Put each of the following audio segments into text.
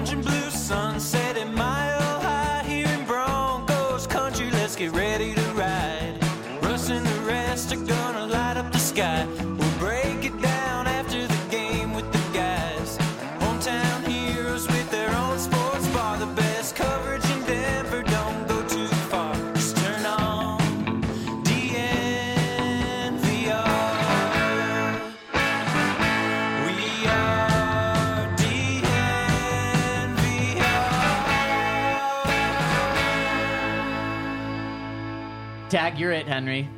orange and blue sunset and mile high here in Broncos country. Let's get ready to ride. Russ and the rest are gonna light up the sky. We'll break it down after the game with the guys. Hometown heroes with their own sports bar. The best coverage in Denver, don't go too far. Just turn on DNVR. We are DNVR. Tag, you're it, Henry.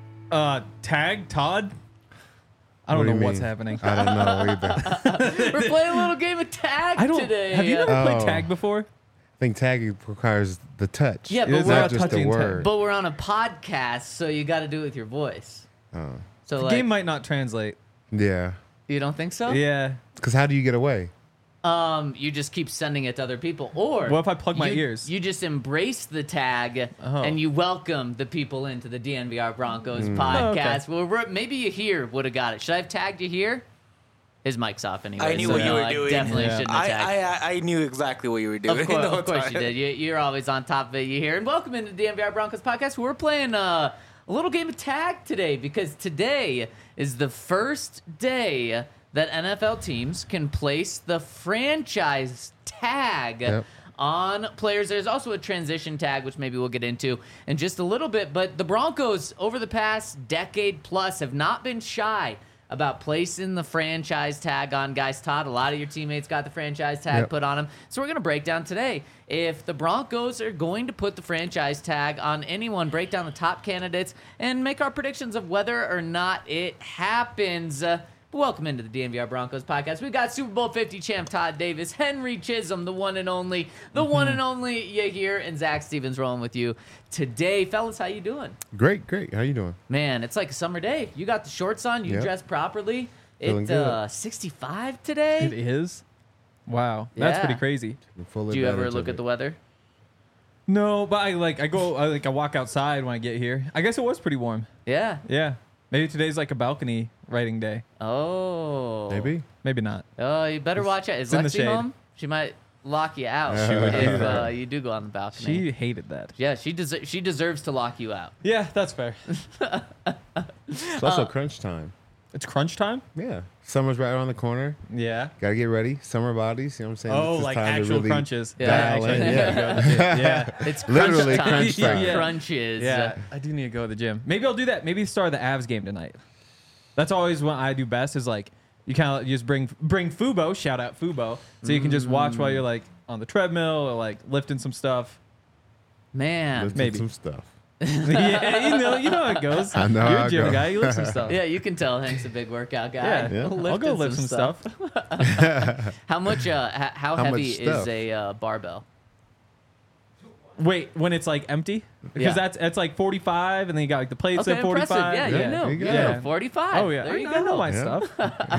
Tag Todd. I don't What do know you what's mean? happening. I don't know either. We're playing a little game of tag today. Have you never played Oh. tag before? I think tagging requires the touch. Yeah, It but is we're, not not just the touching tag. word. but we're on a podcast, so you got to do it with your voice. Oh. So The like, game might not translate. Yeah. you don't think so? Yeah. Because how do you get away? You just keep sending it to other people, or What if I plug my you- ears? You just embrace the tag Oh. and you welcome the people into the DNVR Broncos Oh, okay. podcast. Well, maybe you here would have got it. Should I have tagged you here? His mic's off anyway. I knew so what you no, were I doing. Definitely Yeah. shouldn't have tagged. I knew exactly what you were doing. Of course, the whole of course you time. did. You're always on top of it. You here. And welcome into the DNVR Broncos podcast. We're playing a little game of tag today because today is the first day that NFL teams can place the franchise tag Yep. on players. There's also a transition tag, which maybe we'll get into in just a little bit. But the Broncos, over the past decade plus, have not been shy about placing the franchise tag on guys. Todd, a lot of your teammates got the franchise tag Yep. put on them. So we're going to break down today if the Broncos are going to put the franchise tag on anyone, break down the top candidates, and make our predictions of whether or not it happens. Welcome into the DNVR Broncos podcast. We got Super Bowl 50 champ Todd Davis, Henry Chisholm, the one and only you here, and Zach Stevens rolling with you today. Fellas, how you doing? Great. How you doing? Man, it's like a summer day. You got the shorts on. You Yep. dressed properly. Feeling It's good. 65 today. It is? Wow. That's Yeah. pretty crazy. Full Do you ever advantage look of at the it. weather? No, but I walk outside when I get here. I guess it was pretty warm. Yeah. Yeah. Maybe today's like a balcony writing day. Oh. Maybe. Maybe not. Oh, you better watch out. Is it's in the Lexi shade. home? She might lock you out She would do if that. you do go on the balcony. She hated that. Yeah, she deserves to lock you out. Yeah, that's fair. It's also crunch time. It's crunch time? Yeah. Summer's right around the corner. Yeah. Gotta get ready. Summer bodies. You know what I'm saying? Oh, This is like time to actual really crunches. Yeah, dial actually. in. Yeah. Yeah. It's crunch Literally time. crunch time. Yeah. Crunches. Yeah, I do need to go to the gym. Maybe I'll do that. Maybe start the Avs game tonight. That's always what I do best is like you kind of just bring Fubo, shout out Fubo, so you can just watch while you're like on the treadmill or like lifting some stuff. Man. Lifting Maybe. some stuff. Yeah, you know how it goes. I know You're how a it gym goes. guy. You lift some stuff. Yeah, you can tell Hank's a big workout guy. Yeah. Yeah. I'll go Lifting lift some stuff. How much? How much heavy is stuff? a barbell? Wait, when it's like empty, because Yeah. that's like 45, and then you got like the plates Okay, at 45. impressive. Yeah, Yeah, you know. there you go. Yeah. 45. Oh yeah, There you I know go. my Yeah. stuff.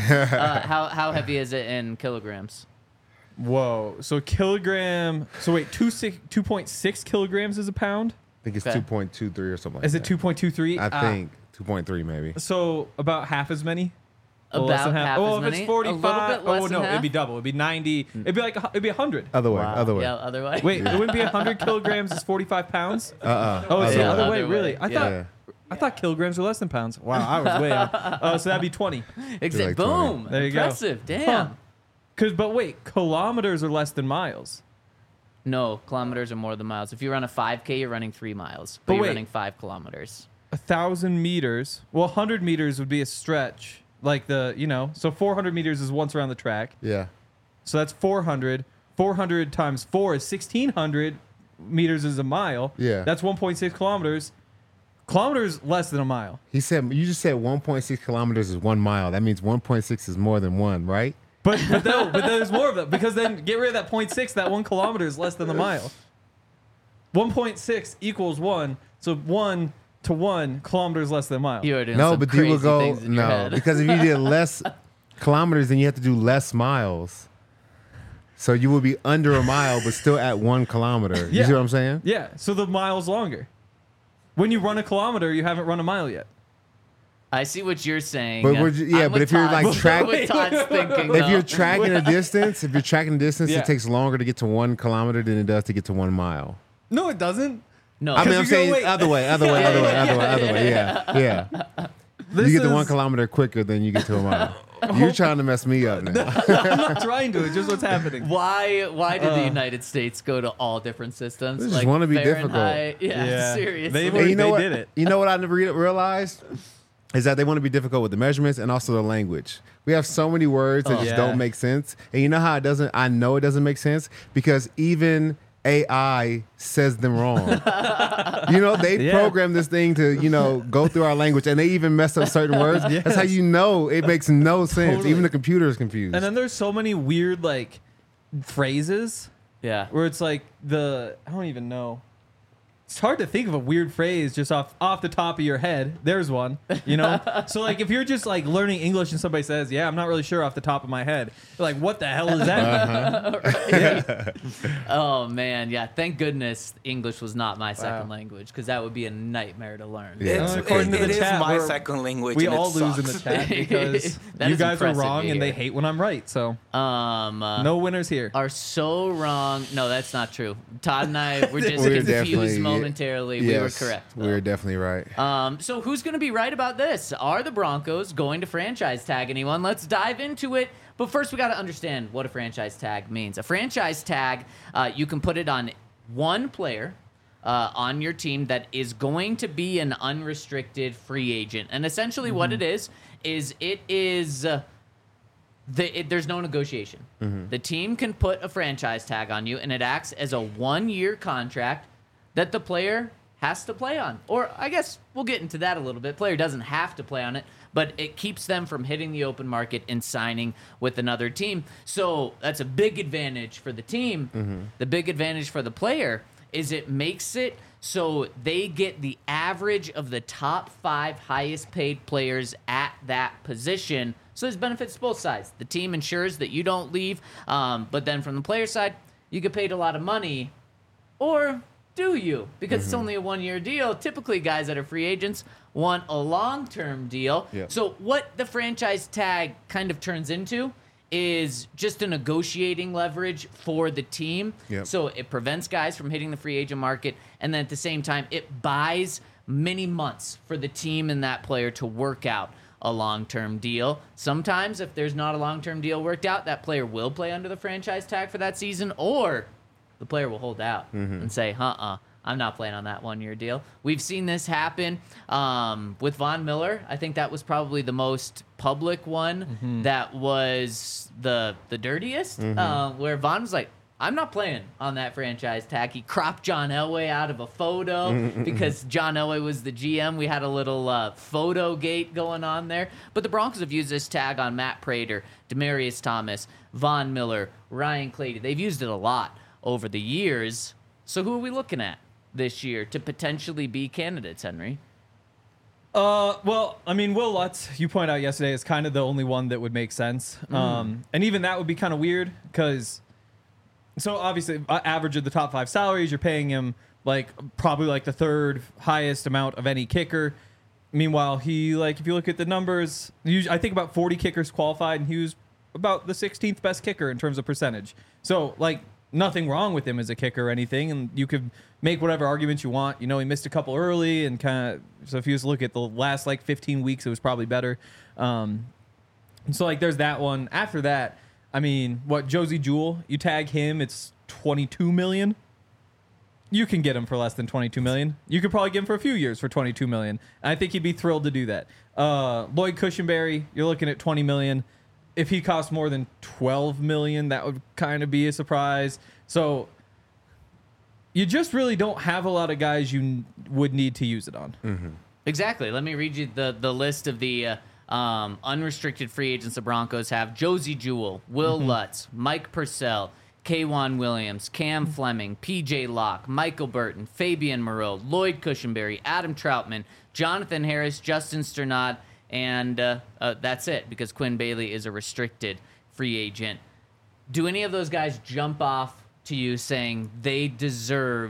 How heavy is it in kilograms? Whoa, so kilogram. So wait, 2.6 kilograms is a pound. I think it's Okay. 2.23 or something like Is it that. 2.23? I think 2.3 maybe. So about half as many. Or About less than half Oh, as if many? it's 45. A little bit less oh than no, half? it'd be double. It'd be 90. It'd be like it'd be 100. Other way. Wow. Other way. Yeah, other way. Wait, it wouldn't be 100 kilograms is 45 pounds. Oh, it's Yeah, the other other way. way. Really? Yeah. I thought kilograms were less than pounds. Wow, I was way off. So that'd be 20. Exactly. like 20. Boom. There you go. Impressive. Damn. Huh. But wait, kilometers are less than miles. No, kilometers are more than miles. If you run a 5K, you're running 3 miles. But But you're wait. running 5 kilometers. 1,000 meters. Well, 100 meters would be a stretch. Like so 400 meters is once around the track. Yeah. So that's 400. 400 times 4 is 1,600 meters is a mile. Yeah. That's 1.6 kilometers. Kilometers less than a mile. You just said 1.6 kilometers is 1 mile. That means 1.6 is more than 1, right? But there's more of that because then get rid of that 0.6. That 1 kilometer is less than the mile. 1.6 equals 1. So 1 to 1 kilometers less than a mile. You are doing No, some but you crazy will go things in your head. because if you did less kilometers, then you have to do less miles. So you will be under a mile, but still at 1 kilometer. You Yeah. see what I'm saying? Yeah. So the mile's longer. When you run a kilometer, you haven't run a mile yet. I see what you're saying. But if you're like if you're tracking a distance, Yeah. it takes longer to get to 1 kilometer than it does to get to 1 mile. No, it doesn't. No, I mean, I'm you go, saying wait. other way. Yeah. You get to 1 kilometer quicker than you get to a mile. You're trying to mess me up now. I'm not trying to. It's just what's happening. Why did the United States go to all different systems? They just wanna be Fahrenheit? difficult. Yeah, seriously. They And you know what? did it. You know what I never realized is that they want to be difficult with the measurements and also the language. We have so many words that just Yeah. don't make sense. And you know how it doesn't? I know it doesn't make sense because even AI says them wrong. They Yeah. program this thing to, go through our language and they even mess up certain words. That's how you know it makes no sense. Totally. Even the computer is confused. And then there's so many weird like phrases Yeah. where it's like I don't even know. It's hard to think of a weird phrase just off the top of your head. There's one, So like if you're just like learning English and somebody says, "Yeah, I'm not really sure off the top of my head," you're like, "What the hell is that?" Oh man, yeah. Thank goodness English was not my second language because that would be a nightmare to learn. Yeah. According to It the is chat, my we're- second language. We and all it lose in the sucks. chat because That you is guys are impressive wrong to and they hear. hate when I'm right. So No no winners here. are so wrong. No, that's not true. Todd and I were just We're confused definitely- momentarily. We were correct. We were definitely right. So who's going to be right about this? Are the Broncos going to franchise tag anyone? Let's dive into it. But first, we got to understand what a franchise tag means. A franchise tag, you can put it on one player on your team that is going to be an unrestricted free agent. And essentially what it is it is... there's no negotiation. The team can put a franchise tag on you, and it acts as a 1-year contract that the player has to play on. Or I guess we'll get into that a little bit. Player doesn't have to play on it, but it keeps them from hitting the open market and signing with another team. So that's a big advantage for the team. The big advantage for the player is it makes it so they get the average of the top 5 highest paid players at that position. So there's benefits to both sides. The team ensures that you don't leave, but then from the player side, you get paid a lot of money. Or do you? Because it's only a 1-year deal. Typically, guys that are free agents want a long-term deal. Yep. So what the franchise tag kind of turns into is just a negotiating leverage for the team. Yep. So it prevents guys from hitting the free agent market, and then at the same time, it buys many months for the team and that player to work out a long-term deal. Sometimes, if there's not a long-term deal worked out, that player will play under the franchise tag for that season, or the player will hold out and say, I'm not playing on that 1-year deal. We've seen this happen with Von Miller. I think that was probably the most public one that was the dirtiest, where Von was like, I'm not playing on that franchise tag. He cropped John Elway out of a photo because John Elway was the GM. We had a little photo gate going on there. But the Broncos have used this tag on Matt Prater, Demaryius Thomas, Von Miller, Ryan Clady. They've used it a lot over the years. So who are we looking at this year to potentially be candidates, Henry? Well, I mean, Will Lutz, you pointed out yesterday, is kind of the only one that would make sense. And even that would be kind of weird because, so obviously, average of the top 5 salaries, you're paying him probably the 3rd highest amount of any kicker. Meanwhile, he, if you look at the numbers, I think about 40 kickers qualified, and he was about the 16th best kicker in terms of percentage. So, nothing wrong with him as a kicker or anything, and you could make whatever arguments you want. He missed a couple early, and so if you just look at the last 15 weeks, it was probably better. So there's that one. After that, I mean, Josie Jewell, you tag him, it's $22 million. You can get him for less than $22 million. You could probably get him for a few years for $22 million. I think he'd be thrilled to do that. Lloyd Cushenberry, you're looking at $20 million. If he costs more than $12 million, that would kind of be a surprise. So you just really don't have a lot of guys you would need to use it on. Exactly. Let me read you the list of the unrestricted free agents the Broncos have. Josie Jewell, Will Lutz, Mike Purcell, K'Wan Williams, Cam Fleming, P.J. Locke, Michael Burton, Fabian Moreau, Lloyd Cushenberry, Adam Troutman, Jonathan Harris, Justin Sternad, and that's it because Quinn Bailey is a restricted free agent. Do any of those guys jump off to you saying they deserve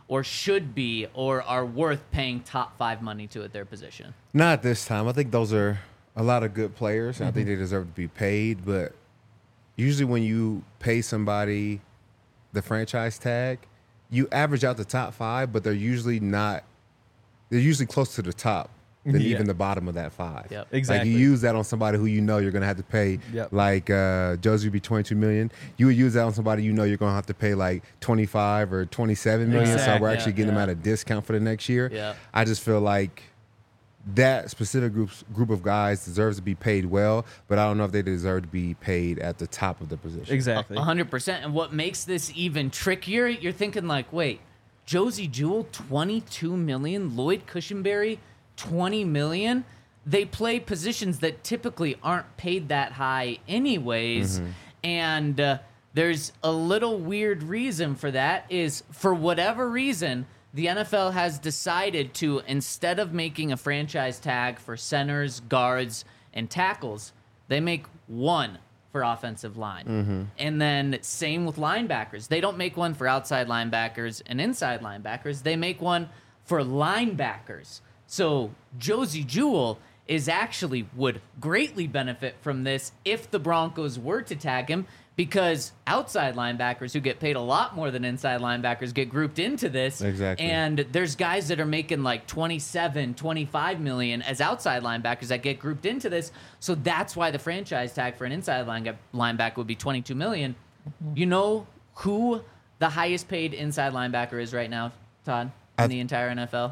or should be or are worth paying top 5 money to at their position? Not this time. I think those are a lot of good players, and I think they deserve to be paid. But usually when you pay somebody the franchise tag, you average out the top 5, but they're usually not. They're usually close to the top than Yeah. even the bottom of that 5. Yep. Exactly. Like you use that on somebody who you know you're going to have to pay. Yep. Like Josie would be $22 million. You would use that on somebody you know you're going to have to pay like $25 or $27 million. So Exactly. we're actually Yeah, getting them yeah. at a discount for the next year. Yeah. I just feel like that specific group of guys deserves to be paid well, but I don't know if they deserve to be paid at the top of the position. Exactly. 100%. And what makes this even trickier, you're thinking like, wait, Josie Jewell, $22 million, Lloyd Cushenberry, $20 million. They play positions that typically aren't paid that high anyways. And there's a little weird reason for that is for whatever reason, the NFL has decided to, instead of making a franchise tag for centers, guards, and tackles, they make one for offensive line. And then same with linebackers. They don't make one for outside linebackers and inside linebackers. They make one for linebackers. So Josie Jewell would greatly benefit from this if the Broncos were to tag him, because outside linebackers who get paid a lot more than inside linebackers get grouped into this. Exactly. And there's guys that are making like 27, 25 million as outside linebackers that get grouped into this. So that's why the franchise tag for an inside linebacker would be 22 million. You know who the highest paid inside linebacker is right now, Todd, in the entire NFL?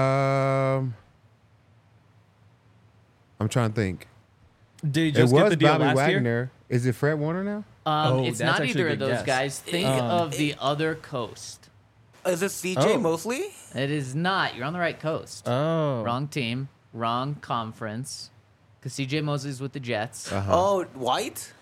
I'm trying to think. Did he It just get was the deal Bobby last year? Wagner. Is it Fred Warner now? Oh, It's that's not actually either a of good those guess. guys. Think of the other coast. Is it CJ Oh. Mosley? It is not. You're on the right coast. Oh. Wrong team, wrong conference. Because CJ Mosley's with the Jets. Oh, White?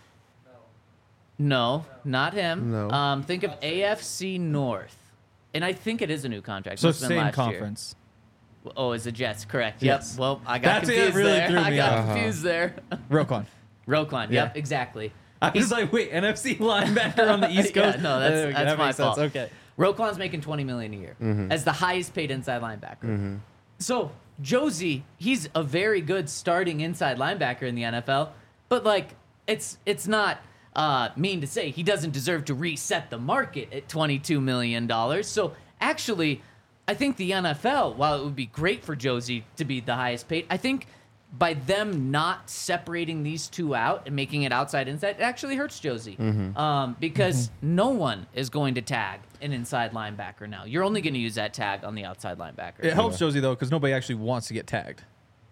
No, not him. No. Think of AFC North. And I think it is a new contract. So Must've been same last conference. Year. Oh, it's the Jets. Correct. Yes. Yep. Well, I got That's it, confused really there. threw I me got off. confused there. Roquan. Roquan. Yeah. Yep, exactly. I was like, wait, NFC linebacker on the East Yeah, Coast? no, that's that my makes sense. fault. Okay. Roquan's making $20 million a year as the highest paid inside linebacker. So Josie, he's a very good starting inside linebacker in the NFL, but like it's not mean to say he doesn't deserve to reset the market at $22 million. So actually, I think the NFL, while it would be great for Josie to be the highest paid, I think by them not separating these two out and making it outside inside, it actually hurts Josie because no one is going to tag an inside linebacker now. You're only going to use that tag on the outside linebacker. It helps Josie, though, because nobody actually wants to get tagged.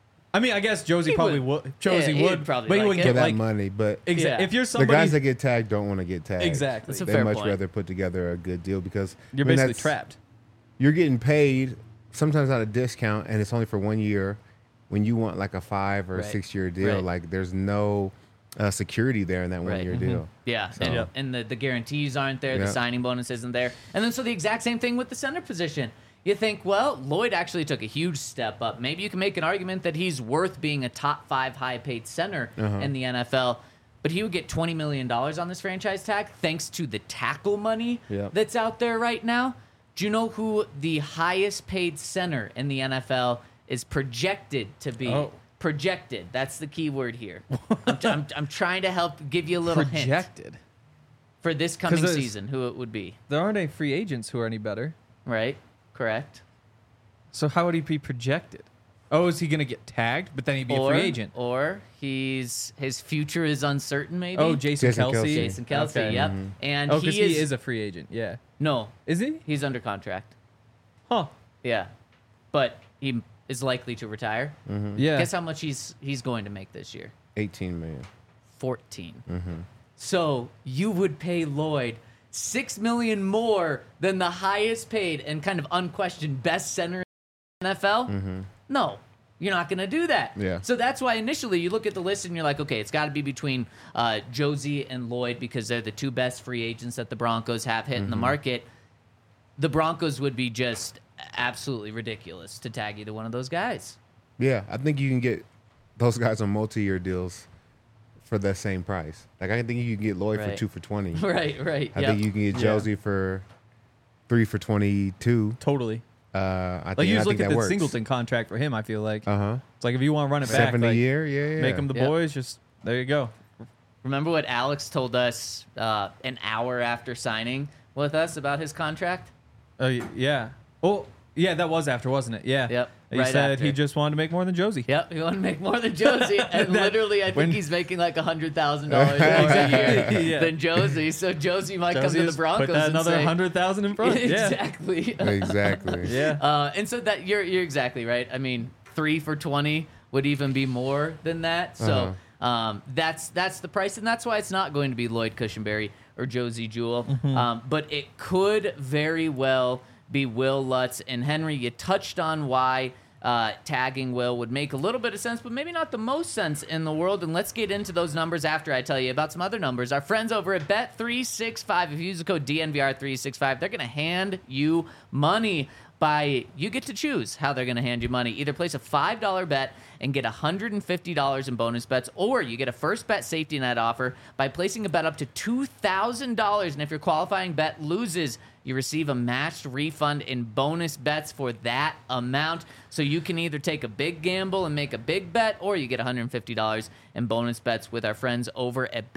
I mean, I guess Josie He probably would. would. Josie Yeah, he'd would. probably but he like wouldn't it. For get that like. money, but Yeah. If you're the somebody. guys that get tagged don't want to get tagged. Exactly. That's a They fair much point. rather put together a good deal because You're I mean, basically that's- trapped. You're getting paid sometimes at a discount, and it's only for 1 year. When you want like a 5 or Right. 6 year deal, Right. like there's no security there in that 1 Right. year deal. Yeah, So- and the guarantees aren't there, the Yeah. signing bonus isn't there. And then so the exact same thing with the center position. You think, well, Lloyd actually took a huge step up. Maybe you can make an argument that he's worth being a top 5 high-paid center in the NFL, but he would get $20 million on this franchise tag thanks to the tackle money Yep. that's out there right now. Do you know who the highest paid center in the NFL is projected to be? Oh. Projected. That's the key word here. I'm trying to help give you a little hint Projected. for this coming there's- season, who it would be. There aren't any free agents who are any better. Right? Correct. So how would he be projected? Oh, is he going to get tagged, but then he'd be a free agent? Or his future is uncertain, maybe. Oh, Jason Jason Kelsey. Kelce. Jason Kelsey, Okay. yep. And Oh, because he he is a free agent. Yeah. no, Is he? he's under contract. Huh. Yeah, but he is likely to retire. Yeah. Guess how much he's going to make this year? 18 million. 14. So you would pay Lloyd $6 million more than the highest paid and kind of unquestioned best center in the NFL? No, you're not going to do that. Yeah. So that's why initially you look at the list and you're like, okay, it's got to be between Josie and Lloyd because they're the two best free agents that the Broncos have hit in the market. The Broncos would be just absolutely ridiculous to tag either one of those guys. Yeah, I think you can get those guys on multi-year deals for the same price. Like I think you can get Lloyd for Right. 2 for 20. Right. I think you can get Josie for 3 for 22. Totally. I Like think, you I just think look at that the works. Singleton contract for him. I feel like Uh-huh. it's like if you want to run it back, 7 a like, year, yeah. make them the Yep. boys. Just there you go. Remember what Alex told us an hour after signing with us about his contract? Yeah. Oh, yeah, that was after, wasn't it? Yeah. Yep, He right said after. he just wanted to make more than Josie. Yep, he wanted to make more than Josie, and That- literally, I think when- he's making like $100,000 more a year Yeah. than Josie. So Josie might come Josie to the just Broncos put that and another say, 100,000 in front. Yeah. exactly. Exactly. Yeah. And so that you're exactly right. I mean, 3 for 20 would even be more than that. So that's the price, and that's why it's not going to be Lloyd Cushenberry or Josie Jewell. But it could very well be Will Lutz. And Henry, you touched on why tagging Will would make a little bit of sense, but maybe not the most sense in the world. And let's get into those numbers after I tell you about some other numbers. Our friends over at Bet365, if you use the code DNVR365, they're going to hand you money. You get to choose how they're going to hand you money. Either place a $5 bet and get $150 in bonus bets, or you get a first bet safety net offer by placing a bet up to $2,000. And if your qualifying bet loses, you receive a matched refund in bonus bets for that amount. So you can either take a big gamble and make a big bet, or you get $150 in bonus bets with our friends over at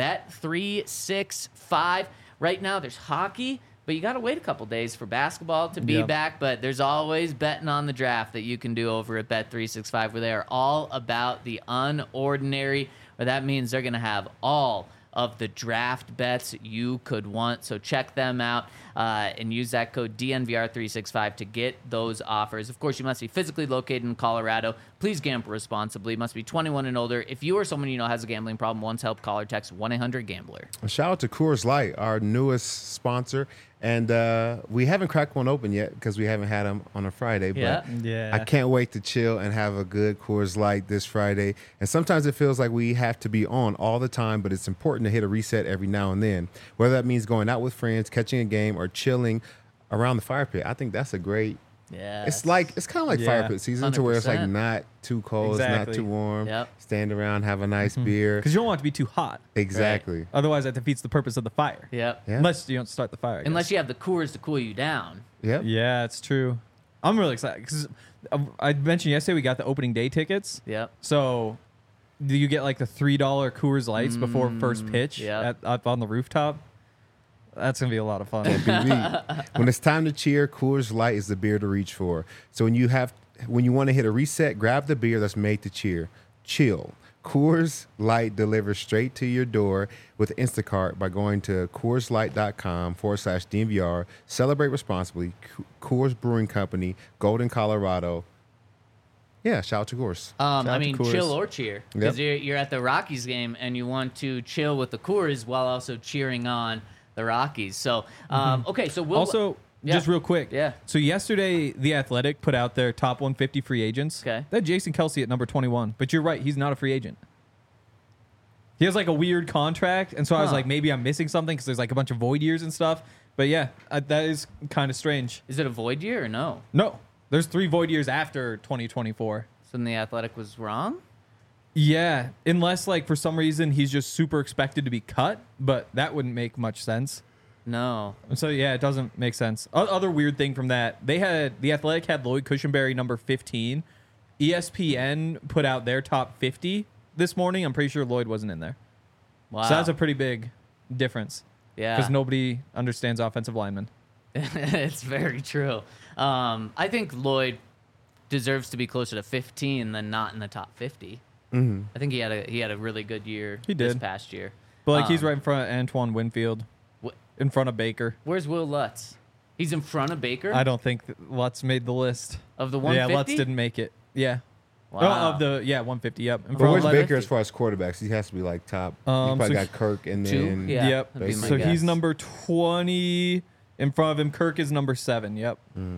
Bet365. Right now, there's hockey, but you got to wait a couple days for basketball to be Yep. back. But there's always betting on the draft that you can do over at Bet365, where they are all about the unordinary, where that means they're going to have all of the draft bets you could want. So check them out and use that code DNVR365 to get those offers. Of course, you must be physically located in Colorado. Please gamble responsibly. Must be 21 and older. If you or someone you know has a gambling problem, once help, call or text 1-800-GAMBLER. A shout out to Coors Light, our newest sponsor. And we haven't cracked one open yet because we haven't had them on a Friday. But Yeah. Yeah. I can't wait to chill and have a good Coors Light this Friday. And sometimes it feels like we have to be on all the time, but it's important to hit a reset every now and then. Whether that means going out with friends, catching a game, or chilling around the fire pit. I think that's a great. Yeah. It's kind of like Yeah. fire pit season to where it's like 100%. not too cold, it's not Exactly. too warm. Yep. Stand around, have a nice beer. Because you don't want it to be too hot. Exactly. Otherwise, that defeats the purpose of the fire. Yep. Yeah. Unless you don't start the fire. I guess. Unless you have the Coors to cool you down. Yep. Yeah, it's true. I'm really excited because I mentioned yesterday we got the opening day tickets. Yep. So do you get like the $3 Coors Lights before first pitch yeah. up on the rooftop? That's gonna be a lot of fun. When it's time to cheer, Coors Light is the beer to reach for. So when you want to hit a reset, grab the beer that's made to cheer. Chill. Coors Light delivers straight to your door with Instacart by going to CoorsLight.com/DNVR. Celebrate responsibly. Coors Brewing Company, Golden, Colorado. Yeah, shout out to Coors. I out to mean, Coors. chill or cheer. Because Yep. you're at the Rockies game and you want to chill with the Coors while also cheering on the Rockies. So, okay, so we'll... Also, Yeah. just real quick. Yeah. So yesterday, The Athletic put out their top 150 free agents. Okay. They had Jason Kelsey at number 21. But you're right, he's not a free agent. He has like a weird contract, and so I was Huh. like, maybe I'm missing something because there's like a bunch of void years and stuff. But yeah, that is kind of strange. Is it a void year or no? No, there's 3 void years after 2024. So then the Athletic was wrong? Yeah, unless like for some reason he's just super expected to be cut, but that wouldn't make much sense. No. And so yeah, it doesn't make sense. Other weird thing from that, The Athletic had Lloyd Cushenberry number 15. ESPN put out their top 50 this morning. I'm pretty sure Lloyd wasn't in there. Wow. So that's a pretty big difference. Yeah. Because nobody understands offensive linemen. It's very true. I think Lloyd deserves to be closer to 15 than not in the top 50. Mm-hmm. I think he had a really good year He this did. past year. But like he's Um, right in front of Antoine Winfield, Wh- in front of Baker. Where's Will Lutz? He's in front of Baker I don't think that Lutz made the list. of the Yeah, 150. Lutz didn't make it. Yeah. Wow. Oh, 150. Yep. In But front where's of Lutz? Baker as far as quarterbacks? He has to be like top. You Um, probably so got Kirk and 2? then Yeah. Yep. that'd be my So guess. he's number 20. In front of him, Kirk is number 7. Yep.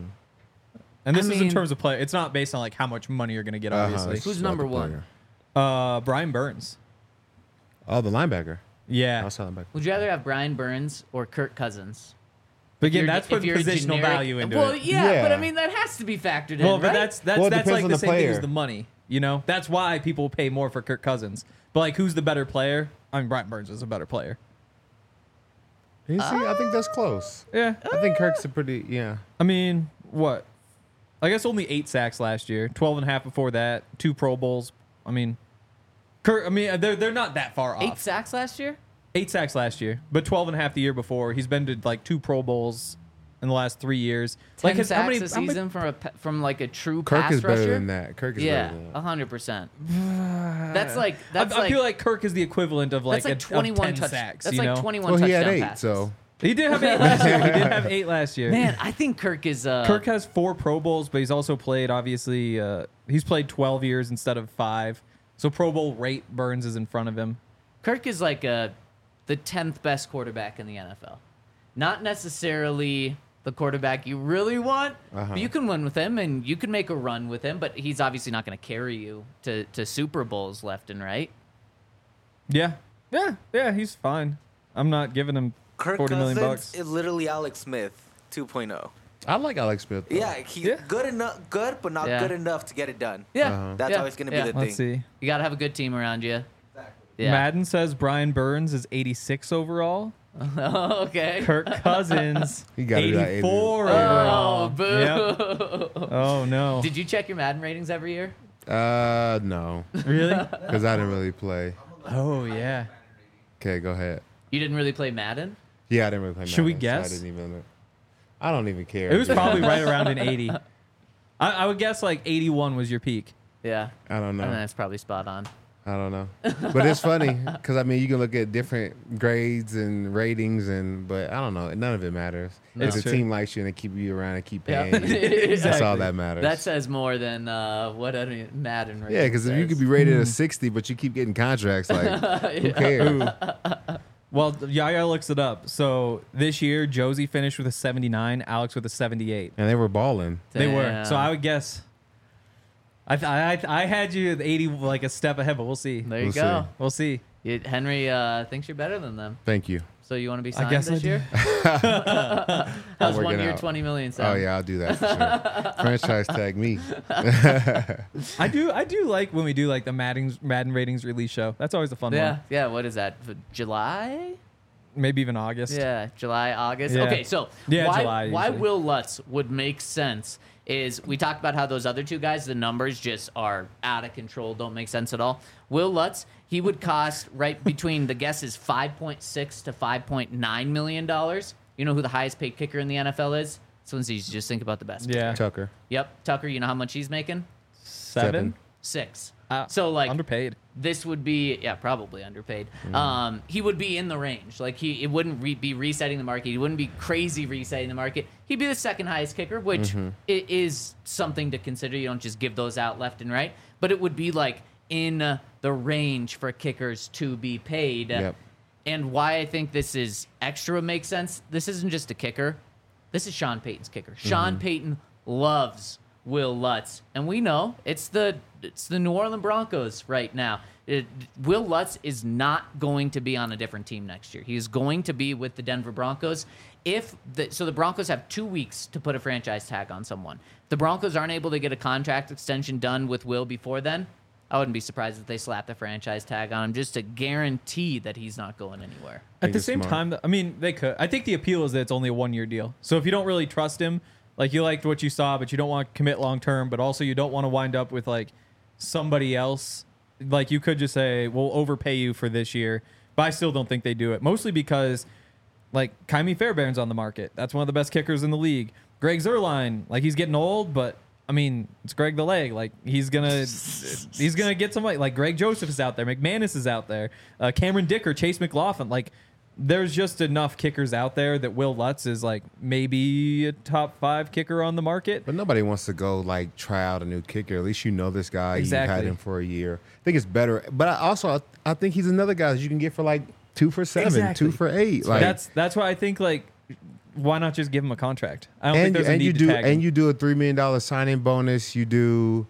And this I is in mean- terms of play. It's not based on like how much money you're gonna get. Obviously. it's Who's about number the one? player. Brian Burns. Oh, the linebacker. Yeah. Outside linebacker. Would you rather have Brian Burns or Kirk Cousins? But again, You're- that's if putting you're a positional generic- value into well, it. yeah, but I Yeah. mean that has to be factored in, Well, but right? that's Well, it that's depends like on the the same thing as player. the money. You know, that's why people pay more for Kirk Cousins. But like, who's the better player? I mean, Brian Burns is a better player. You see, I think that's close. Yeah. I think Kirk's a pretty, yeah. I mean, what? I guess only 8 sacks last year, 12 and a half before that, 2 Pro Bowls. I mean, Kirk. I mean, they're not that far off. 8 sacks last year? 8 sacks last year, but 12 and a half the year before. He's been to like 2 Pro Bowls in the last 3 years. 10 his- sacks a season from like a true Kirk pass is better rusher? than that. Kirk is Yeah, better than that. 100%. That's like I feel like Kirk is the equivalent of like, that's like of 21 10 sacks. That's you like know? 21 Well, he touchdown had 8, passes. so. He did have 8 last year. He did have 8 last year. Man, I think Kirk is Kirk has 4 Pro Bowls, but he's also played, obviously, he's played 12 years instead of 5. So Pro Bowl rate Burns is in front of him. Kirk is like the 10th best quarterback in the NFL. Not necessarily the quarterback you really want, but you can win with him and you can make a run with him, but he's obviously not going to carry you to Super Bowls left and right. Yeah. Yeah, he's fine. I'm not giving him Kirk $40 million Cousins bucks. is literally Alex Smith 2.0. I like Alex Smith. though. Yeah, he's Yeah. good, but not Yeah. good enough to get it done. Yeah. That's yeah, always going to yeah. be the Let's thing. see. You got to have a good team around you. Yeah. Madden says Brian Burns is 86 overall. Okay. Kirk Cousins, He gotta be like 84 Oh, overall. boo. Yep. Oh, no. Did you check your Madden ratings every year? No, Really? because I didn't really play. Oh, yeah. Okay, go ahead. You didn't really play Madden? Yeah, I didn't really play. Should we Madden, so guess? I didn't even. I don't even care. It was probably right around an 80. I would guess like 81 was your peak. Yeah. I don't know. And that's probably spot on. I don't know. But it's funny because I mean you can look at different grades and ratings but I don't know. None of it matters. No. If the It's true. team likes you and they keep you around and keep Yeah. paying you, that's all Exactly. that matters. That says more than what any Madden rating yeah, because if you says. could be rated a 60, but you keep getting contracts, like who cares? Well, Yaya looks it up. So this year, Josie finished with a 79, Alex with a 78. And they were balling. They were. Damn. So I would guess. I had you at 80, like a step ahead, but we'll see. There you We'll go. see. We'll see. Henry thinks you're better than them. Thank you. So you want to be I signed guess I this do. year? How's working 1 year, out. 20 million Oh sound? yeah, I'll do that for sure. Franchise tag me. I do like when we do like the Madden ratings release show. That's always a fun Yeah, one. yeah. What is that? July? Maybe even August. Yeah, July, August. Yeah. Okay, so Yeah, why July why usually. Will Lutz would make sense is we talked about how those other two guys, the numbers just are out of control, don't make sense at all. Will Lutz, he would cost right between the guess is $5.6 to $5.9 million. You know who the highest paid kicker in the NFL is? This one's easy. Just think about the best. Yeah. Tucker. Yep, Tucker. You know how much he's making? 7. 6. Uh, So like underpaid. this would be probably underpaid. Mm. He would be in the range. Like it wouldn't be resetting the market. He wouldn't be crazy resetting the market. He'd be the second highest kicker, which it is something to consider. You don't just give those out left and right, but it would be like in the range for kickers to be paid. Yep. And why I think this is extra makes sense. This isn't just a kicker. This is Sean Payton's kicker. Sean Payton loves Will Lutz, and we know it's the New Orleans Broncos right now. Will Lutz is not going to be on a different team next year. He is going to be with the Denver Broncos. So the Broncos have 2 weeks to put a franchise tag on someone. If the Broncos aren't able to get a contract extension done with Will before then, I wouldn't be surprised if they slap the franchise tag on him just to guarantee that he's not going anywhere. At think the it's same smart. time, I mean, they could. I think the appeal is that it's only a 1 year deal. So if you don't really trust him, like you liked what you saw, but you don't want to commit long term, but also you don't want to wind up with like somebody else, like you could just say, we'll overpay you for this year. But I still don't think they do it. Mostly because like Kaimi Fairbairn's on the market. That's one of the best kickers in the league. Greg Zuerlein, like he's getting old, but I mean, it's Greg the Leg. Like he's gonna get somebody. Like Greg Joseph is out there, McManus is out there, Cameron Dicker, Chase McLaughlin. Like there's just enough kickers out there that Will Lutz is like maybe a top 5 kicker on the market. But nobody wants to go like try out a new kicker. At least you know this guy. Exactly. You had him for a year. I think it's better. But I think he's another guy that you can get for like 2 for 7, Exactly. 2 for 8. Like That's why I think like why not just give him a contract? I don't think and there's a need to tag him. you do a $3 million signing bonus. You do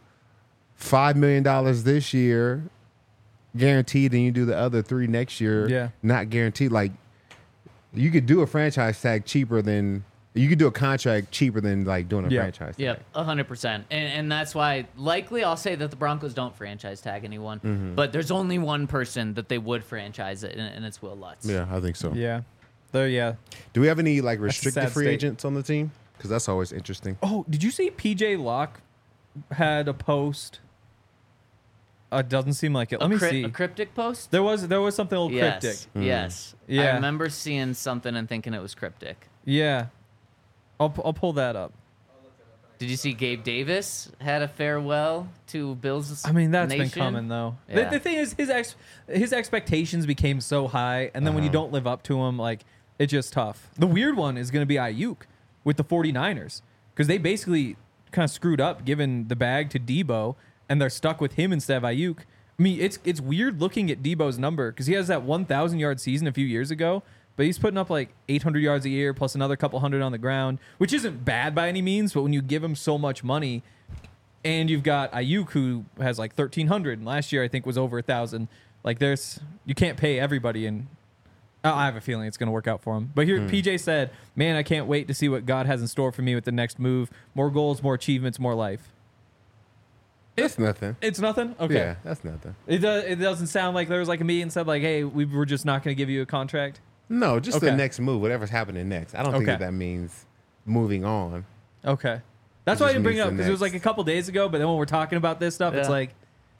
$5 million this year, guaranteed, and you do the other 3 next year. Yeah. Not guaranteed. Like you could do a franchise tag cheaper than you could do a contract cheaper than like doing a Yeah. franchise tag. Yep, 100%. And that's why likely I'll say that the Broncos don't franchise tag anyone, but there's only one person that they would franchise it, and it's Will Lutz. Yeah, I think so. Yeah. Yeah. Do we have any like a sad restricted free state. agents on the team? Because that's always interesting. Oh, did you see PJ Locke had a post? It doesn't seem like it. Let me see. A cryptic post? There was something a little cryptic. Yes. Yes. I Yeah. remember seeing something and thinking it was cryptic. Yeah. I'll pull that up. Did you see Gabe Davis had a farewell to Bills? I mean, that's Nation? been coming though. Yeah. The thing is, his expectations became so high, and then when you don't live up to them, like it's just tough. The weird one is going to be Ayuk with the 49ers because they basically kind of screwed up giving the bag to Debo, and they're stuck with him instead of Ayuk. I mean, it's weird looking at Debo's number because he has that 1,000-yard season a few years ago, but he's putting up like 800 yards a year plus another couple hundred on the ground, which isn't bad by any means. But when you give him so much money, and you've got Ayuk who has like 1,300, and last year I think was over 1,000. Like you can't pay everybody, and I have a feeling it's going to work out for him. But here, PJ said, "Man, I can't wait to see what God has in store for me with the next move. More goals, more achievements, more life." That's nothing. It's nothing. Okay. Yeah, that's nothing. It doesn't sound like there was like a meeting and said like, "Hey, we're just not going to give you a contract." No, just Okay. the next move, whatever's happening next. I don't think Okay. that means moving on. Okay. That's It why I just didn't bring it means up the because it was like a next. couple days ago. But then when we're talking about this stuff, it's Yeah. like,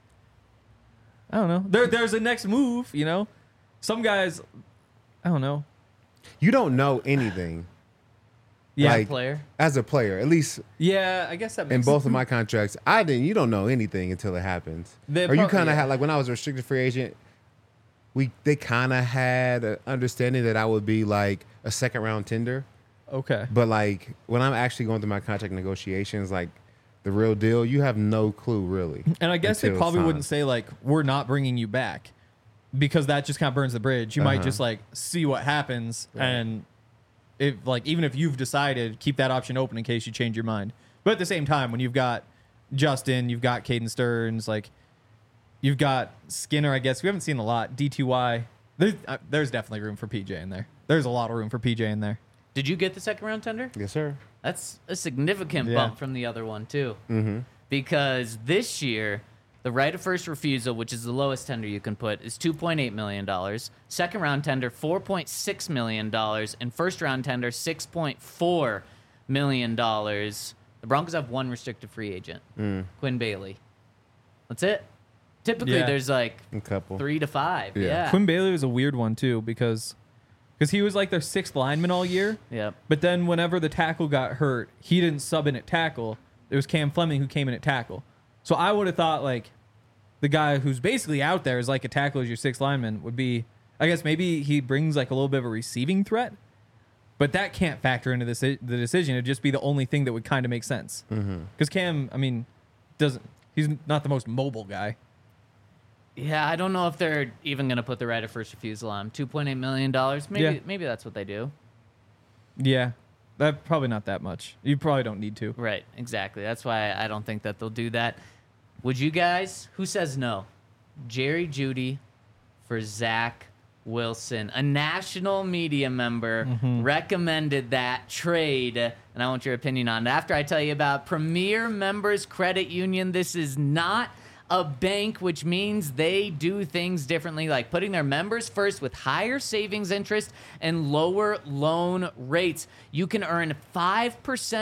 I don't know. There's a next move. You know, some guys, I don't know. You don't know anything Yeah. Like- Player. as a player. At least Yeah. I guess that in makes both of my contracts, you don't know anything until it happens. They Or you prob- kind of yeah. had like when I was a restricted free agent, they kind of had an understanding that I would be like a second round tender. Okay. But like when I'm actually going through my contract negotiations, like the real deal, you have no clue really. And I guess they until it's probably time. wouldn't say like, "We're not bringing you back," because that just kind of burns the bridge. You might Uh-huh. just like see what happens, and if like even if you've decided, keep that option open in case you change your mind. But at the same time, when you've got Justin, you've got Caden Stearns, like you've got Skinner. I guess we haven't seen a lot. DTY. There's definitely room for PJ in there. There's a lot of room for PJ in there. Did you get the second round tender? Yes, sir. That's a significant Yeah. bump from the other one too. Mm-hmm. Because this year, the right of first refusal, which is the lowest tender you can put, is $2.8 million. Second round tender, $4.6 million. And first round tender, $6.4 million. The Broncos have one restricted free agent, Quinn Bailey. That's it. Typically, Yeah. there's like A couple. 3 to 5. Yeah. Yeah. Quinn Bailey was a weird one too because he was like their sixth lineman all year. Yep. But then whenever the tackle got hurt, he didn't sub in at tackle. It was Cam Fleming who came in at tackle. So I would have thought like the guy who's basically out there as like a tackle as your sixth lineman would be, I guess maybe he brings like a little bit of a receiving threat, but that can't factor into the decision. It'd just be the only thing that would kind of make sense. Because Cam, I mean, he's not the most mobile guy. Yeah, I don't know if they're even going to put the right of first refusal on. $2.8 million. Yeah. Maybe that's what they do. Yeah, that probably not that much. You probably don't need to. Right, exactly. That's why I don't think that they'll do that. Would you guys? Who says no? Jerry Jeudy for Zach Wilson. A national media member recommended that trade, and I want your opinion on it. After I tell you about Premier Members Credit Union, this is not a bank, which means they do things differently, like putting their members first with higher savings interest and lower loan rates. You can earn 5%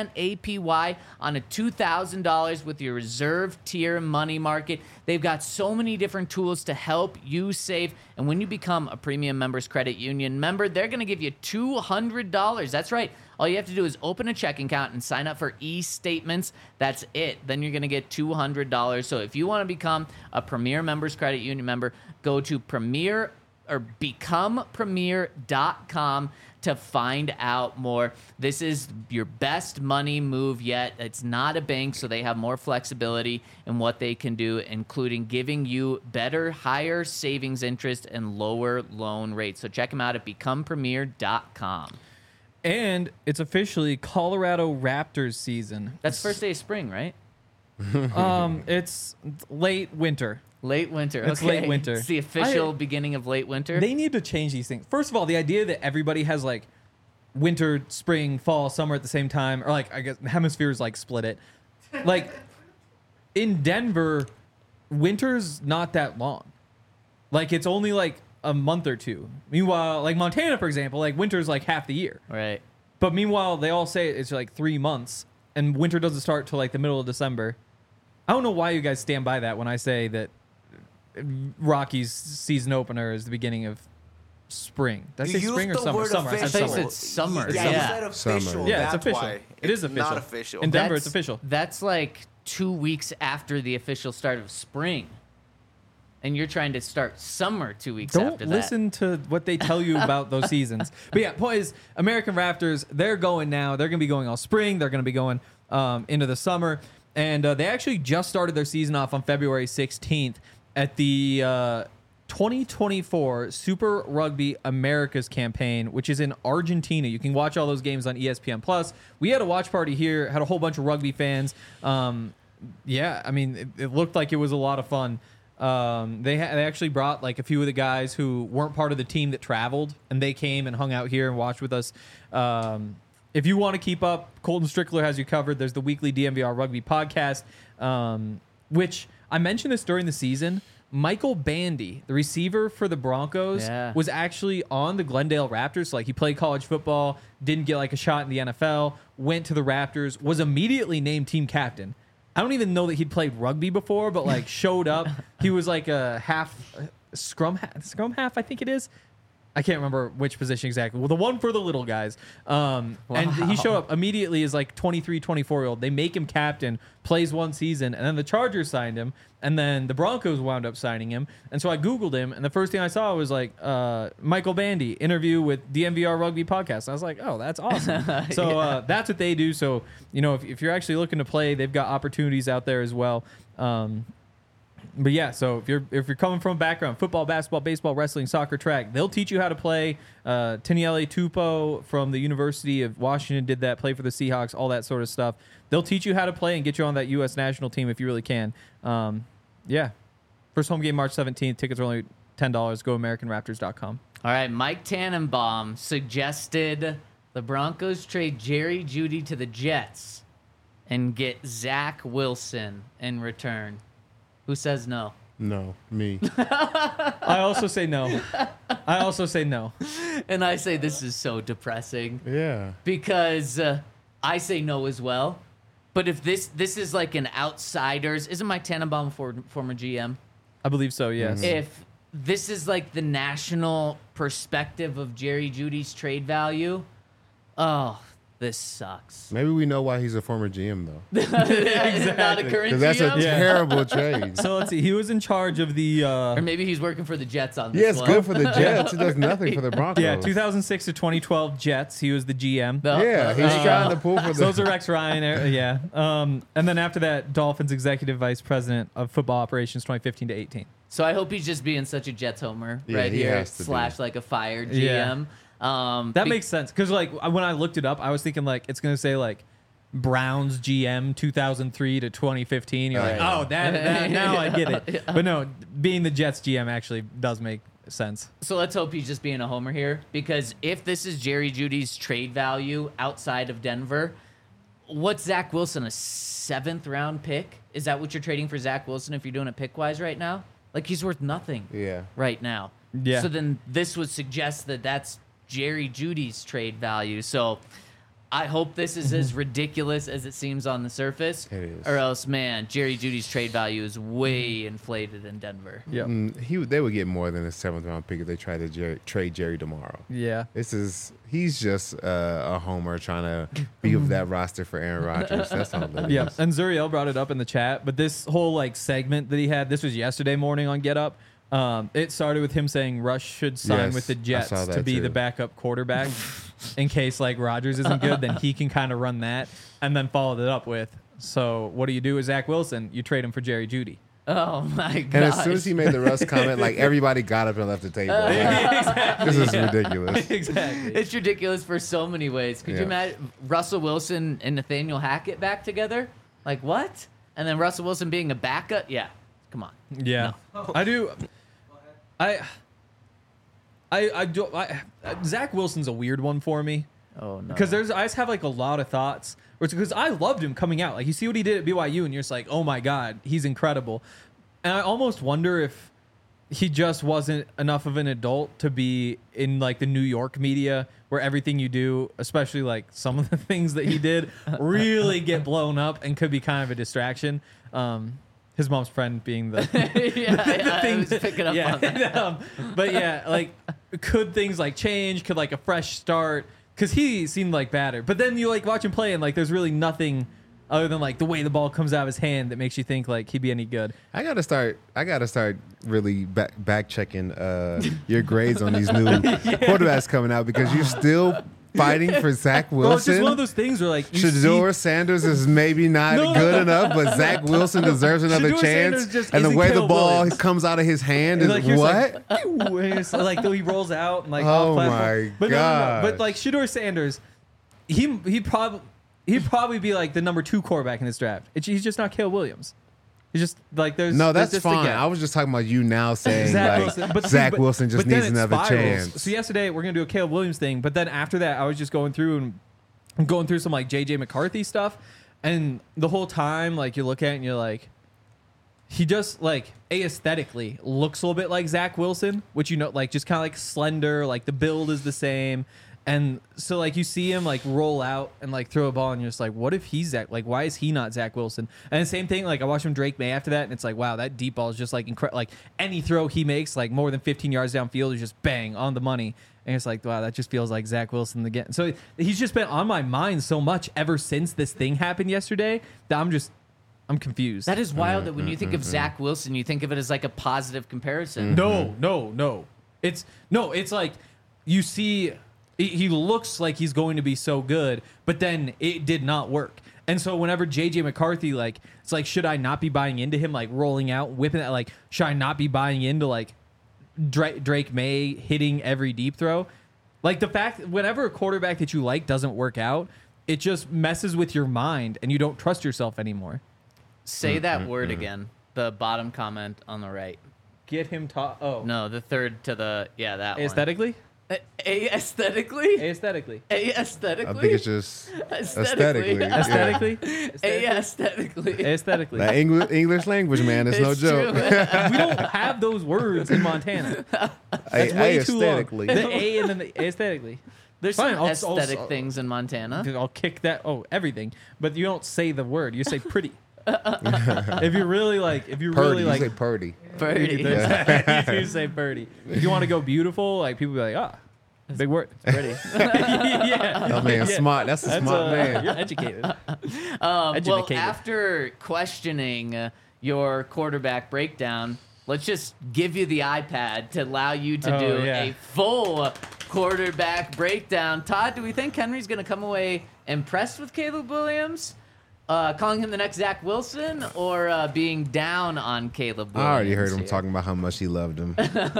APY on a $2,000 with your reserve tier money market. They've got so many different tools to help you save. And when you become a Premium Members Credit Union member, they're going to give you $200. That's right. All you have to do is open a checking account and sign up for e-statements. That's it. Then you're going to get $200. So if you want to become a Premier Members Credit Union member, go to becomepremier.com to find out more. This is your best money move yet. It's not a bank, so they have more flexibility in what they can do, including giving you better, higher savings interest and lower loan rates. So check them out at becomepremier.com. And it's officially Colorado Raptors season. That's first day of spring, right? It's late winter. Late winter. It's okay. late winter. It's the official beginning of late winter. They need to change these things. First of all, the idea that everybody has like winter, spring, fall, summer at the same time, or like I guess hemispheres like split it. Like in Denver, winter's not that long. Like it's only like a month or two. Meanwhile, like Montana, for example, like winter's like half the year. Right. But meanwhile, they all say it's like 3 months, and winter doesn't start till like the middle of December. I don't know why you guys stand by that when I say that Rockies season opener is the beginning of spring. Did I say You spring or used the summer? word Summer. I said I thought you summer. said summer. Yeah, Yeah. you said official. Summer. Yeah, it's That's official. why. It is It's official. not official. In Denver, That's- it's official. That's like 2 weeks after the official start of spring. And you're trying to start summer 2 weeks Don't after that. listen to what they tell you about those seasons. But yeah, point is, American Raptors, they're going now. They're going to be going all spring. They're going to be going into the summer. And they actually just started their season off on February 16th at the 2024 Super Rugby Americas campaign, which is in Argentina. You can watch all those games on ESPN+. We had a watch party here, had a whole bunch of rugby fans. Yeah, I mean, it looked like it was a lot of fun. They actually brought like a few of the guys who weren't part of the team that traveled, and they came and hung out here and watched with us. If you want to keep up, Colton Strickler has you covered. There's the weekly DMVR Rugby podcast, which I mentioned this during the season. Michael Bandy, the receiver for the Broncos, Yeah. was actually on the Glendale Raptors. So, like, he played college football, didn't get like a shot in the NFL, went to the Raptors, was immediately named team captain. I don't even know that he'd played rugby before, but like showed up. He was like a scrum half, I think it is. I can't remember which position exactly. Well, the one for the little guys. And he showed up immediately as like 23, 24-year-old. They make him captain, plays one season, and then the Chargers signed him, and then the Broncos wound up signing him. And so I Googled him, and the first thing I saw was like Michael Bandy, interview with DMVR Rugby Podcast. I was like, oh, that's awesome. So that's what they do. So, you know, if you're actually looking to play, they've got opportunities out there as well. But yeah, so if you're coming from a background, football, basketball, baseball, wrestling, soccer, track, they'll teach you how to play. Taniele Tupou from the University of Washington did that, play for the Seahawks, all that sort of stuff. They'll teach you how to play and get you on that U.S. national team if you really can. Yeah. First home game, March 17th. Tickets are only $10. Go AmericanRaptors.com. All right, Mike Tannenbaum suggested the Broncos trade Jerry Jeudy to the Jets and get Zach Wilson in return. Who says no? No, me. I also say no. And I say this is so depressing Yeah. because I say no as well. But if this is like an outsider's, isn't Mike Tannenbaum former GM? I believe so, yes. If this is like the national perspective of Jerry Jeudy's trade value, oh, this sucks. Maybe we know why he's a former GM though. Not a current Because that's a GM? terrible trade. So let's see. He was in charge of the Or maybe he's working for the Jets on this Yeah, it's one. good for the Jets. He does nothing for the Broncos. 2006 to 2012 Jets. He was the GM. No, Yeah, no, he's no. trying to pull for So those the. are Rex Ryan, yeah. And then after that, Dolphins executive vice president of football operations, 2015 to 18. So I hope he's just being such a Jets homer Yeah, right he here, has to be. / like a fired Yeah. GM. That makes sense because like when I looked it up, I was thinking like it's gonna say like Browns GM 2003 to 2015. You're like, Right. oh, that now I get it. But no, being the Jets GM actually does make sense. So let's hope he's just being a homer here, because if this is Jerry Jeudy's trade value outside of Denver, what's Zach Wilson, a 7th round pick? Is that what you're trading for Zach Wilson if you're doing it pick wise right now? Like he's worth nothing Yeah. right now. Yeah. So then this would suggest that that's Jerry Jeudy's trade value. So I hope this is as ridiculous as it seems on the surface. It is. Or else, man, Jerry Jeudy's trade value is way inflated in Denver. Yeah. They would get more than a 7th round pick if they tried to trade Jerry tomorrow. Yeah. He's just a homer trying to be of that roster for Aaron Rodgers. That's all that Yeah, is. and Zuriel brought it up in the chat, but this whole like segment that he had, this was yesterday morning on Get Up. It started with him saying Rush should sign Yes, with the I Jets saw to that be too. the backup quarterback in case like Rodgers isn't good, then he can kind of run that, and then followed it up with, so what do you do with Zach Wilson? You trade him for Jerry Jeudy. Oh my god! And as soon as he made the Russ comment, like everybody got up and left the table. Like, this is ridiculous. Exactly. It's ridiculous for so many ways. Could you Yeah. imagine Russell Wilson and Nathaniel Hackett back together? Like what? And then Russell Wilson being a backup? Yeah. Come on. Yeah, I do. Zach Wilson's a weird one for me. Oh no. Because I just have like a lot of thoughts. Because I loved him coming out. Like you see what he did at BYU, and you're just like, oh my god, he's incredible. And I almost wonder if he just wasn't enough of an adult to be in like the New York media where everything you do, especially like some of the things that he did, really get blown up and could be kind of a distraction. His mom's friend being the I was picking up on that. but yeah, like could things like change? Could like a fresh start? Because he seemed like batter, but then you like watch him play and like there's really nothing other than like the way the ball comes out of his hand that makes you think like he'd be any good. I gotta start really back checking your grades on these new quarterbacks coming out because you're still fighting for Zach Wilson. Well, it's just one of those things where like you Shedeur Sanders is maybe not good enough, but Zach Wilson deserves another Shedeur chance. Sanders just And the isn't way the Caleb ball Williams. comes out of his hand And, is like, you're just what? like, "Ew," and it's like he rolls out and like Oh off platform. my But no. gosh. But like Shedeur Sanders, he'd probably be like the number 2 quarterback in this draft. He's just not Caleb Williams. He's just like there's No, there's that's just a fine. gap. I was just talking about you now saying Zach like Wilson. But see, Zach but- Wilson just but then needs it another spirals. chance. So yesterday we're gonna do a Caleb Williams thing, but then after that I was just going through some like JJ McCarthy stuff, and the whole time like you look at it and you're like, he just like aesthetically looks a little bit like Zach Wilson, which you know like just kind of like slender, like the build is the same. And so like you see him like roll out and like throw a ball and you're just like, what if he's Zach? Like, why is he not Zach Wilson? And the same thing, like I watched him Drake May after that and it's like, wow, that deep ball is just like incredible. Like any throw he makes, like more than 15 yards downfield is just bang on the money. And it's like, wow, that just feels like Zach Wilson again. So he's just been on my mind so much ever since this thing happened yesterday that I'm confused. That is wild that when you think of Zach Wilson, you think of it as like a positive comparison. No. It's like you see he looks like he's going to be so good, but then it did not work. And so whenever JJ McCarthy, like, it's like, should I not be buying into him, like rolling out, whipping that, like, should I not be buying into like Drake May hitting every deep throw? Like the fact whenever a quarterback that you like doesn't work out, it just messes with your mind and you don't trust yourself anymore. Say that word again. The bottom comment on the right. Get him oh. No, the third to the that one. Aesthetically? Aesthetically? Aesthetically. Aesthetically? I think it's just aesthetically. Yeah. Aesthetically? Aesthetically. Aesthetically. That English language, man, it's no It's joke. true. We don't have those words in Montana. That's A- way too long. aesthetically. The A and then the aesthetically. There's Fine, some I'll- aesthetic I'll- things in Montana. I'll kick that. Oh, everything. But you don't say the word. You say pretty. If you really like, Purdy, you say purdy. Birdie. you do say purdy. If you want to go beautiful, like people be like, ah, big word. Pretty. Yeah. Oh man, Yeah. smart. That's a smart man. You're educated. Well, Educated. after questioning your quarterback breakdown, let's just give you the iPad to allow you to Oh, do yeah. a full quarterback breakdown. Todd, do we think Henry's going to come away impressed with Caleb Williams? Calling him the next Zach Wilson or being down on Caleb Williams? I already heard him here? talking about how much he loved him.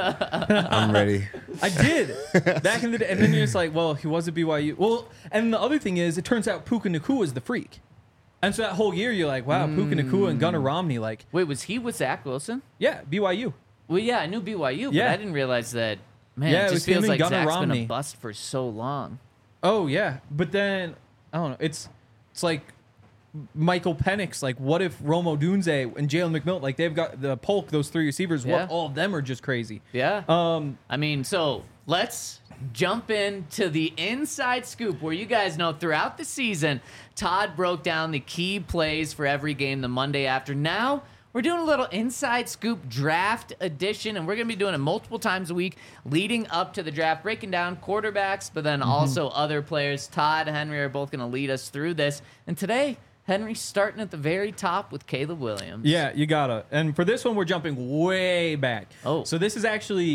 I'm ready. I did back in the day, and then you're just like, well, he was at BYU. Well, and the other thing is, it turns out Puka Nacua is the freak, and so that whole year you're like, wow, Puka Nacua and Gunnar Romney, like, Wait, was he with Zach Wilson? yeah, BYU. Well, yeah, I knew BYU, but Yeah. I didn't realize that. Man, Yeah, it it was just him feels and like Gunnar Zach's been Romney. a bust for so long. Oh yeah, but then I don't know. It's like Michael Penix. Like, what if Rome Odunze and Jalen McMillan, like they've got the Polk, those 3 receivers. Yeah. What all of them are just crazy. Yeah. Um, I mean, so let's jump into the inside scoop where you guys know throughout the season, Todd broke down the key plays for every game the Monday after. Now, we're doing a little inside scoop draft edition, and we're going to be doing it multiple times a week leading up to the draft, breaking down quarterbacks, but then also other players. Todd and Henry are both going to lead us through this. And today, Henry's starting at the very top with Caleb Williams. yeah, you gotta. And for this one, we're jumping way back. Oh. So this is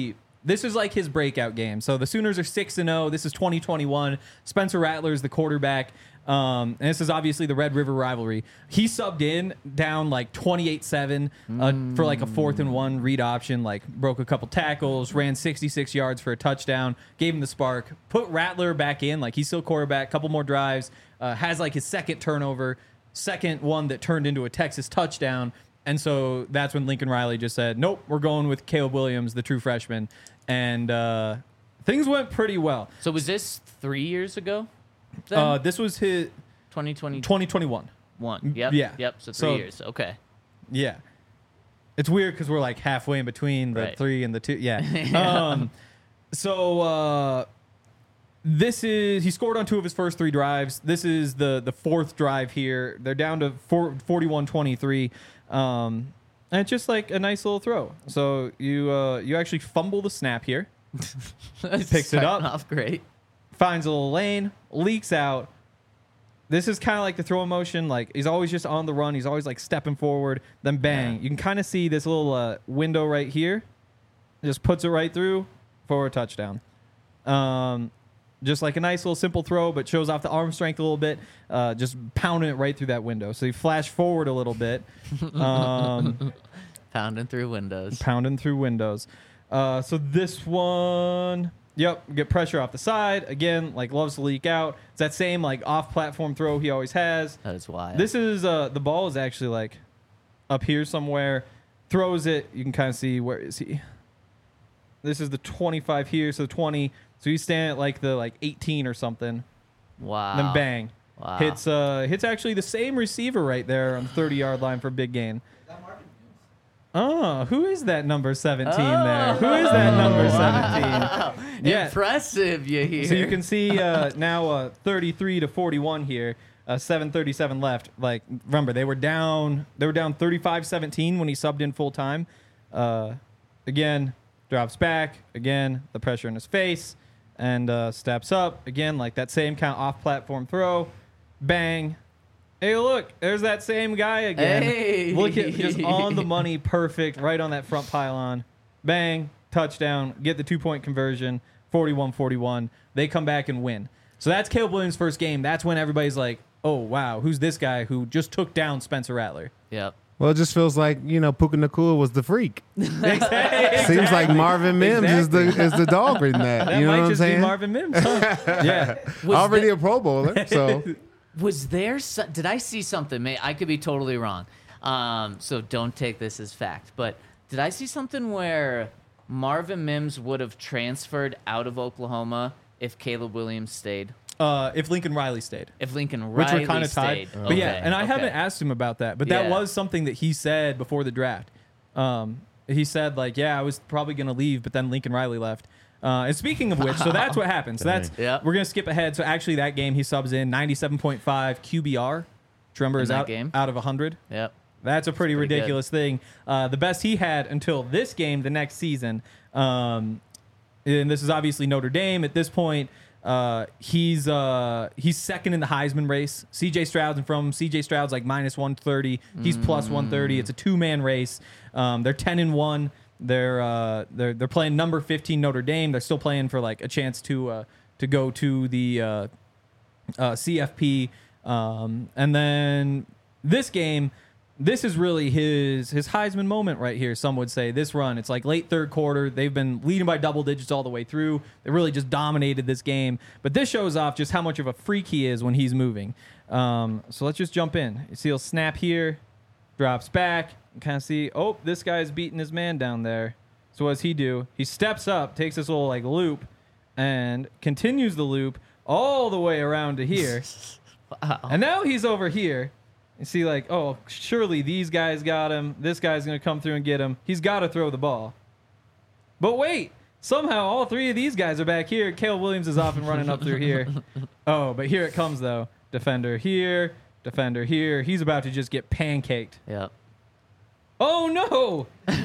like his breakout game. So the Sooners are 6-0. This is 2021. Spencer Rattler is the quarterback. And this is obviously the Red River rivalry. He subbed in down like 28-7 for like a 4th and 1 read option, like broke a couple tackles, ran 66 yards for a touchdown, gave him the spark, put Rattler back in, like he's still quarterback, couple more drives, has like his second turnover, second one that turned into a Texas touchdown. And so that's when Lincoln Riley just said, nope, we're going with Caleb Williams, the true freshman. And things went pretty well. So was this 3 years ago? Then? This was his 2021. 2021. Yep. Yeah. Yep. So 3 So- years. Okay. Yeah. It's weird because we're like halfway in between the Right. 3 and the 2. Yeah. He scored on 2 of his first 3 drives. This is the 4th drive here. They're down to 41-23. And it's just like a nice little throw. So you actually fumble the snap here. Picks it Starting up. off great. Finds a little lane, leaks out. This is kind of like the throw motion. Like he's always just on the run. He's always like stepping forward. Then bang. Yeah. You can kind of see this little window right here. Just puts it right through for a touchdown. Just like a nice little simple throw, but shows off the arm strength a little bit. Just pounding it right through that window. So you flash forward a little bit. Pounding through windows. Pounding through windows. So this one, yep, get pressure off the side. Again, like loves to leak out. It's that same like off-platform throw he always has. That is wild. This is the ball is actually like up here somewhere. Throws it. You can kind of see where is he. This is the 25 here, so 20. So he's standing at like the 18 or something. Wow. Then bang. Wow. Hits actually the same receiver right there on the 30-yard line for a big gain. Oh, who is that number 17 there? Who is that number 17? Yeah. Impressive, you hear. So you can see now 33-41 here. 7:37 left. Like remember they were down 35-17 when he subbed in full time. Again, drops back. Again, the pressure in his face and steps up. Again, like that same kind of off-platform throw. Bang. Hey, look, there's that same guy again. Hey. Look at just on the money, perfect, right on that front pylon. Bang, touchdown, get the 2-point conversion, 41-41. They come back and win. So that's Caleb Williams' first game. That's when everybody's like, oh, wow, who's this guy who just took down Spencer Rattler? Yep. Well, it just feels like, Puka Nacua was the freak. Exactly. Seems like Marvin Mims is the dog in that. That You know might what I'm just be saying? Marvin Mims. Huh? Yeah. Was Already the- a Pro Bowler, so Was there? Did I see something? I could be totally wrong. So don't take this as fact. But did I see something where Marvin Mims would have transferred out of Oklahoma if Caleb Williams stayed? If Lincoln Riley stayed. If Lincoln Which Riley were kind of tied. stayed. But yeah, Okay, and I okay. haven't asked him about that, but that Yeah. was something that he said before the draft. He said, like, yeah, I was probably going to leave, but then Lincoln Riley left. And speaking of which, so that's what happened. So that's Yep. we're going to skip ahead. So actually that game he subs in 97.5 QBR. Which remember is that out, game? out of 100. Yep. That's a pretty pretty good. ridiculous thing. The best he had until this game, the next season. And this is obviously Notre Dame at this point. He's second in the Heisman race. CJ Stroud's in front of him. CJ Stroud's like minus 130. He's plus 130. It's a 2-man race. They're 10-1. They're playing number 15 Notre Dame. They're still playing for like a chance to go to the CFP. And then this game, this is really his Heisman moment right here. Some would say this run. It's like late third quarter. They've been leading by double digits all the way through. They really just dominated this game. But this shows off just how much of a freak he is when he's moving. So let's just jump in. You see he'll snap here, drops back. You kind of see, oh, this guy's beating his man down there. So what does he do? He steps up, takes this little like loop, and continues the loop all the way around to here. Wow. And now he's over here. You see, like, oh, surely these guys got him. This guy's going to come through and get him. He's got to throw the ball. But wait, somehow all 3 of these guys are back here. Caleb Williams is off and running up through here. Oh, but here it comes, though. Defender here, defender here. He's about to just get pancaked. Yep. Oh, no!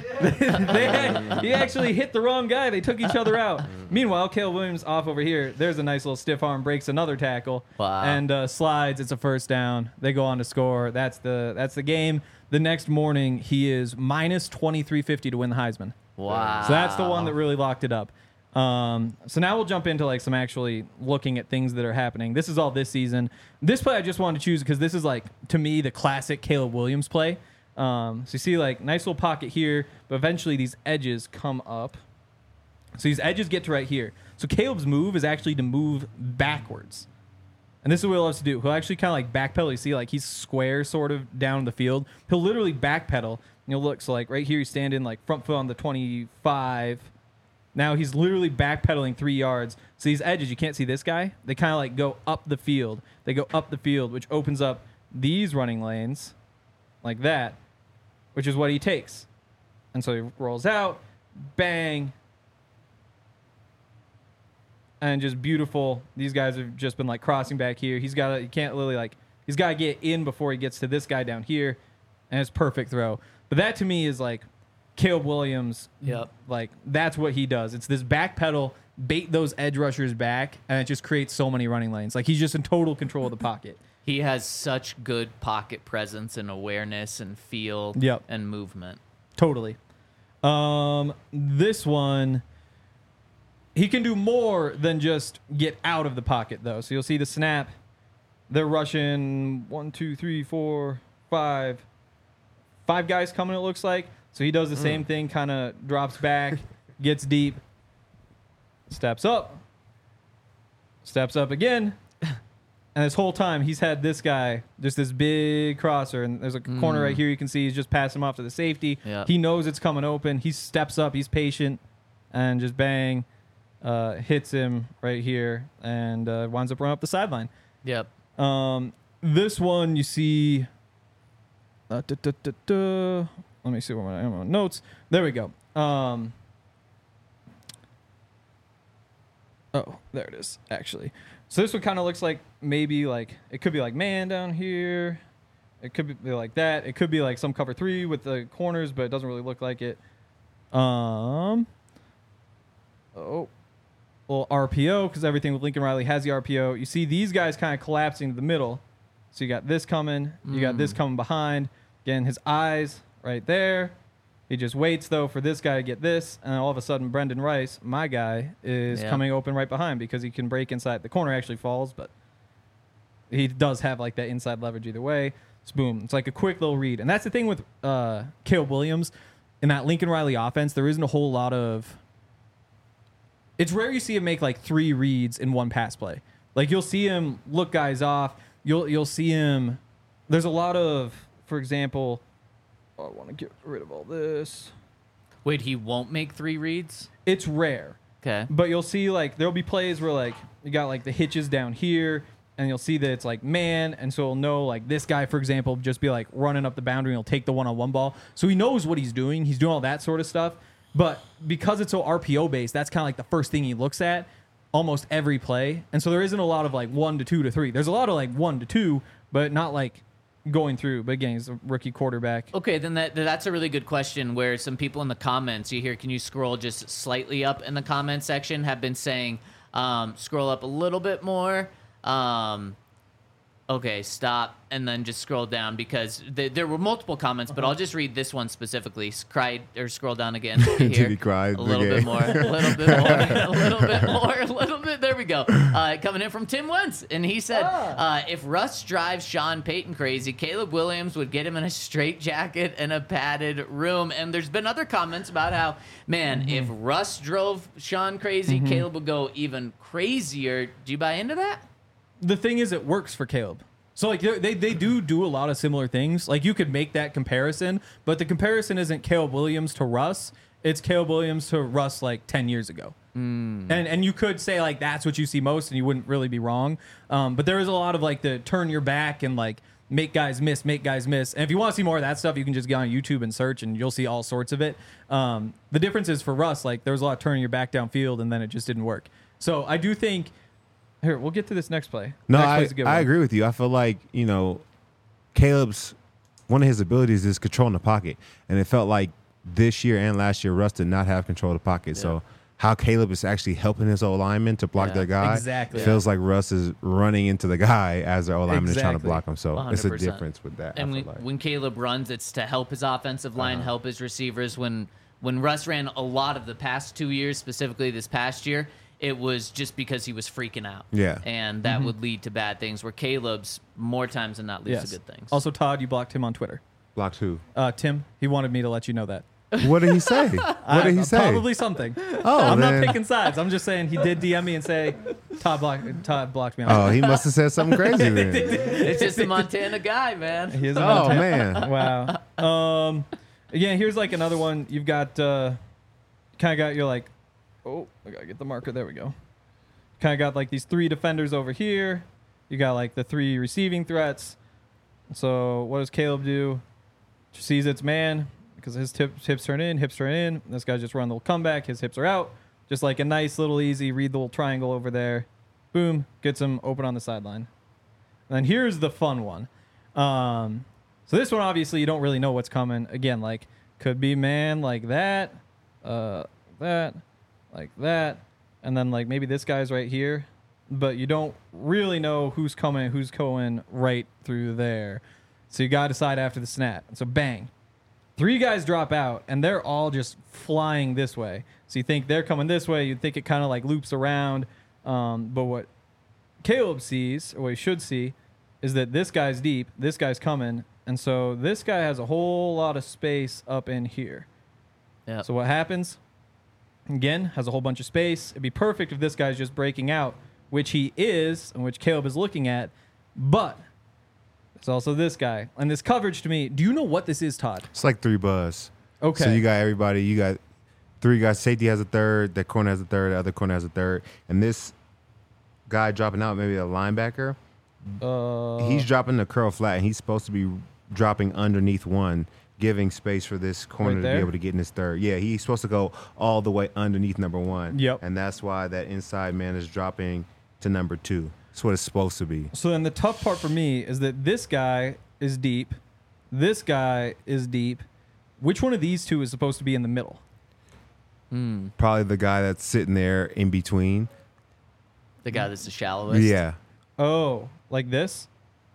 He actually hit the wrong guy. They took each other out. Meanwhile, Caleb Williams off over here. There's a nice little stiff arm, breaks another tackle, Wow. and slides. It's a first down. They go on to score. That's the game. The next morning, he is minus 2350 to win the Heisman. Wow. So that's the one that really locked it up. So now we'll jump into like some actually looking at things that are happening. This is all this season. This play I just wanted to choose because this is like, to me, the classic Caleb Williams play. So you see like nice little pocket here, but eventually these edges come up. So these edges get to right here. So Caleb's move is actually to move backwards. And this is what he loves to do. He'll actually kind of like backpedal. You see like he's square sort of down the field. He'll literally backpedal. You'll look, so like right here he's standing like front foot on the 25. Now he's literally backpedaling 3 yards. So these edges, you can't see this guy. They kind of like go up the field. They go up the field, which opens up these running lanes like that, which is what he takes. And so he rolls out, bang. And just beautiful. These guys have just been like crossing back here. He can't really like, he's got to get in before he gets to this guy down here. And it's perfect throw. But that to me is like Caleb Williams. Yep. Like that's what he does. It's this back pedal, bait those edge rushers back, and it just creates so many running lanes. Like he's just in total control of the pocket. He has such good pocket presence and awareness and feel Yep. and movement. Totally. This one, he can do more than just get out of the pocket, though. So you'll see the snap. They're rushing 1, 2, 3, 4, 5. 5 guys coming, it looks like. So he does the same thing, kind of drops back, gets deep, steps up again. And this whole time, he's had this guy, just this big crosser, and there's a corner right here you can see. He's just passing him off to the safety. Yep. He knows it's coming open. He steps up. He's patient, and just bang, hits him right here, and winds up running up the sideline. Yep. This one you see. Let me see where I am on notes. There we go. Oh, there it is, actually. So this one kind of looks like maybe like it could be like man down here. It could be like that. It could be like some cover 3 with the corners, but it doesn't really look like it. Little RPO because everything with Lincoln Riley has the RPO. You see these guys kind of collapsing to the middle. So you got this coming. You got this coming behind. Again, his eyes right there. He just waits, though, for this guy to get this. And all of a sudden, Brendan Rice, my guy, is coming open right behind because he can break inside. The corner actually falls, but he does have, like, that inside leverage either way. It's boom. It's like a quick little read. And that's the thing with Caleb Williams. In that Lincoln Riley offense, there isn't a whole lot of... It's rare you see him make, like, 3 reads in one pass play. Like, you'll see him look guys off. You'll see him... There's a lot of... For example, I want to get rid of all this. Wait, he won't make 3 reads? It's rare. Okay. But you'll see, like, there'll be plays where, like, you got, like, the hitches down here, and you'll see that it's, like, man, and so he'll know, like, this guy, for example, just be, like, running up the boundary, and he'll take the one-on-one ball. So he knows what he's doing. He's doing all that sort of stuff. But because it's so RPO-based, that's kind of, like, the first thing he looks at almost every play. And so there isn't a lot of, like, 1 to 2 to 3. There's a lot of, like, 1 to 2, but not, like... going through, but again, he's a rookie quarterback. Okay, then that's a really good question where some people in the comments, you hear, can you scroll just slightly up in the comment section, have been saying, scroll up a little bit more. Okay, stop, and then just scroll down because there were multiple comments, but I'll just read this one specifically. Scroll down again. Here. He cried A little again. bit more, a little bit more, a little bit more, a little bit. There we go. Coming in from Tim Wentz, and he said, if Russ drives Sean Payton crazy, Caleb Williams would get him in a straitjacket and a padded room. And there's been other comments about how, man, if Russ drove Sean crazy, Caleb would go even crazier. Do you buy into that? The thing is, it works for Caleb. So, like, they do a lot of similar things. Like, you could make that comparison, but the comparison isn't Caleb Williams to Russ. It's Caleb Williams to Russ, like, 10 years ago. And you could say, like, that's what you see most, and you wouldn't really be wrong. But there is a lot of, like, the turn your back and, like, make guys miss. And if you want to see more of that stuff, you can just get on YouTube and search, and you'll see all sorts of it. The difference is for Russ, like, there was a lot of turning your back downfield, and then it just didn't work. So I do think... Here, we'll get to this next play. No, Next play's a good I one. agree with you. I feel like, you know, Caleb's one of his abilities is controlling the pocket. And it felt like this year and last year, Russ did not have control of the pocket. Yeah. So how Caleb is actually helping his O-lineman to block their guy. exactly. It feels like Russ is running into the guy as their O-lineman is trying to Exactly. block him. So it's a 100%. difference with that. And I feel like. when Caleb runs, it's to help his offensive line, help his receivers. When Russ ran a lot of the past 2 years, specifically this past year, it was just because he was freaking out. Yeah. And that would lead to bad things, where Caleb's more times than not leads Yes. to good things. Also, Todd, you blocked him on Twitter. Blocked who? Tim, he wanted me to let you know that. What did he say? What did he say? Probably something. Oh, I'm then- not picking sides. I'm just saying he did DM me and say Todd blocked me on Oh, he must have said something crazy then. It's just a Montana guy, man. He is a Oh, Montana- man. Wow. Again, here's like another one. You've got kind of got your like, oh, I gotta get the marker. There we go. Kind of got like these 3 defenders over here. You got like the 3 receiving threats. So what does Caleb do? Sees it's man, because his hips turn in, hips turn in. This guy's just running the little comeback. His hips are out. Just like a nice little easy, read the little triangle over there. Boom, gets him open on the sideline. And then here's the fun one. So this one, obviously, you don't really know what's coming. Again, like, could be man like that, that, like that. And then, like, maybe this guy's right here. But you don't really know who's coming, who's going right through there. So you got to decide after the snap. So bang. 3 guys drop out, and they're all just flying this way. So you think they're coming this way. You'd think it kind of like loops around. But what Caleb sees, or what he should see, is that this guy's deep, this guy's coming. And so this guy has a whole lot of space up in here. Yeah. So what happens? Again, has a whole bunch of space. It'd be perfect if this guy's just breaking out, which he is, and which Caleb is looking at. But it's also this guy. And this coverage to me, do you know what this is, Todd? It's like 3 buzz. Okay. So you got everybody. You got 3 guys. Safety has a third. The corner has a third. The other corner has a third. And this guy dropping out, maybe a linebacker, he's dropping the curl flat, and he's supposed to be dropping underneath one, giving space for this corner Right to there? be able to get in his third. Yeah, he's supposed to go all the way underneath number 1. Yep. And that's why that inside man is dropping to number 2. That's what it's supposed to be. So then the tough part for me is that this guy is deep. This guy is deep. Which one of these two is supposed to be in the middle? Probably the guy that's sitting there in between. The guy that's the shallowest. Yeah. Oh, like this?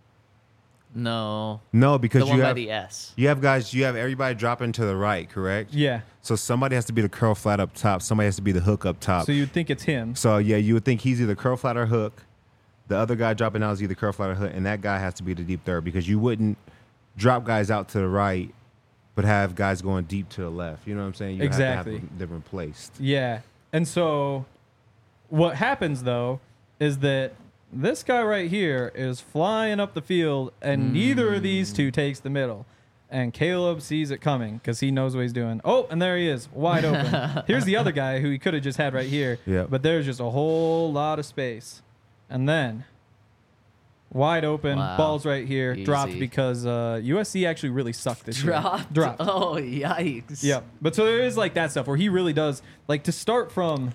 No. No, because The one you by have the S. you have guys. You have everybody dropping to the right, correct? Yeah. So somebody has to be the curl flat up top. Somebody has to be the hook up top. So you'd think it's him. So yeah, you would think he's either curl flat or hook. The other guy dropping out is either curl flat or hook, and that guy has to be the deep third, because you wouldn't drop guys out to the right, but have guys going deep to the left. You know what I'm saying? You Exactly. have to have them replaced. Yeah. And so what happens, though, is that this guy right here is flying up the field, and neither of these two takes the middle. And Caleb sees it coming because he knows what he's doing. Oh, and there he is, wide open. Here's the other guy who he could have just had right here. Yep. But there's just a whole lot of space. And then wide open, Wow. balls right here, dropped Easy. because USC actually really sucked this year. Dropped. Oh, yikes. Yep. But so there is like that stuff where he really does, like, to start from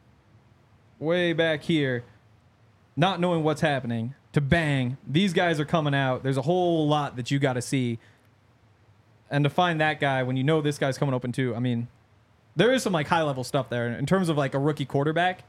way back here, not knowing what's happening, to bang, these guys are coming out. There's a whole lot that you got to see. And to find that guy when you know this guy's coming open too, I mean, there is some like high level stuff there in terms of like a rookie quarterback.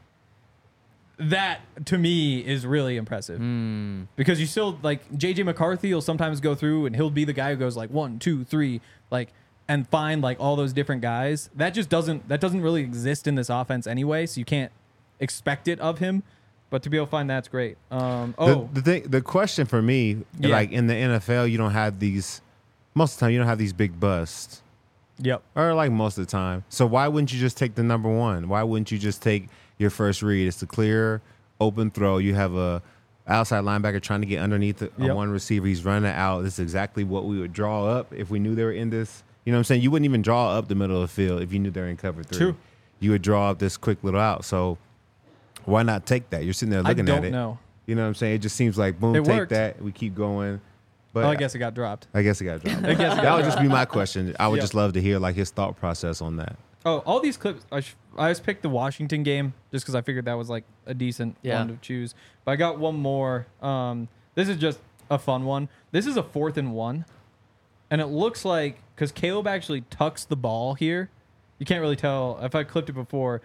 That to me is really impressive because you still like JJ McCarthy will sometimes go through and he'll be the guy who goes like 1, 2, 3, like, and find like all those different guys. That doesn't really exist in this offense anyway. So you can't expect it of him, but to be able to find that's great. The question for me, Yeah. like in the NFL, you don't have these. Most of the time, you don't have these big busts, Yep. or like most of the time. So why wouldn't you just take the number 1? Why wouldn't you just take your first read? It's a clear, open throw. You have a outside linebacker trying to get underneath Yep. one receiver. He's running out. This is exactly what we would draw up if we knew they were in this. You know what I'm saying? You wouldn't even draw up the middle of the field if you knew they were in cover 3. True. You would draw up this quick little out. So why not take that? You're sitting there looking I at don't it. know. You know what I'm saying? It just seems like, boom, It take worked. that. We keep going. But I guess it got dropped. I guess it got dropped. I guess it That got would just be my question. I would Yep. just love to hear like his thought process on that. Oh, all these clips. I just picked the Washington game just because I figured that was like a decent Yeah. one to choose. But I got one more. This is just a fun one. This is a 4th and 1, and it looks like because Caleb actually tucks the ball here. You can't really tell if I clipped it before.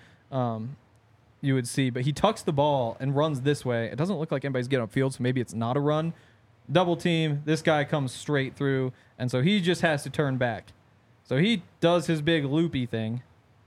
You would see, but he tucks the ball and runs this way. It doesn't look like anybody's getting upfield, so maybe it's not a run. Double team. This guy comes straight through, and so he just has to turn back. So he does his big loopy thing,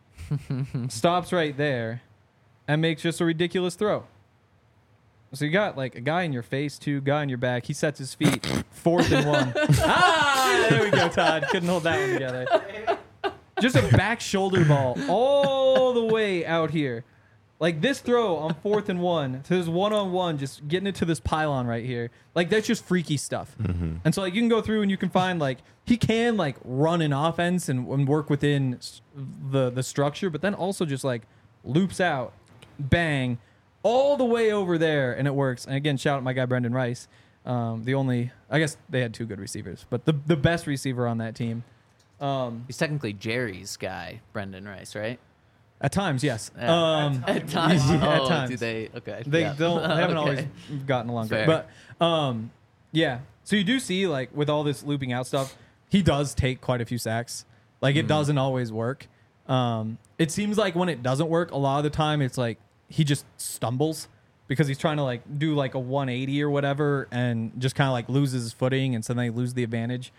stops right there, and makes just a ridiculous throw. So you got like a guy in your face, too, guy in your back. He sets his feet, 4th and 1. There we go, Todd. Couldn't hold that one together. Just a back shoulder ball all the way out here. Like this throw on 4th and 1 to this one-on-one, just getting it to this pylon right here. Like that's just freaky stuff. And so like you can go through and you can find like he can like run an offense and work within the structure, but then also just like loops out, bang, all the way over there, and it works. And again, shout out my guy Brendan Rice, I guess they had 2 good receivers, but the best receiver on that team. He's technically Jerry's guy, Brendan Rice, right? At times, yes. Yeah. At times. Yeah, at Oh, times. do they? Okay. They yeah. don't. They haven't always Okay. gotten along great. Fair. But yeah. So you do see like with all this looping out stuff, he does take quite a few sacks. Like it doesn't always work. It seems like when it doesn't work, a lot of the time it's like he just stumbles because he's trying to like do like a 180 or whatever and just kind of like loses his footing and so then they lose the advantage.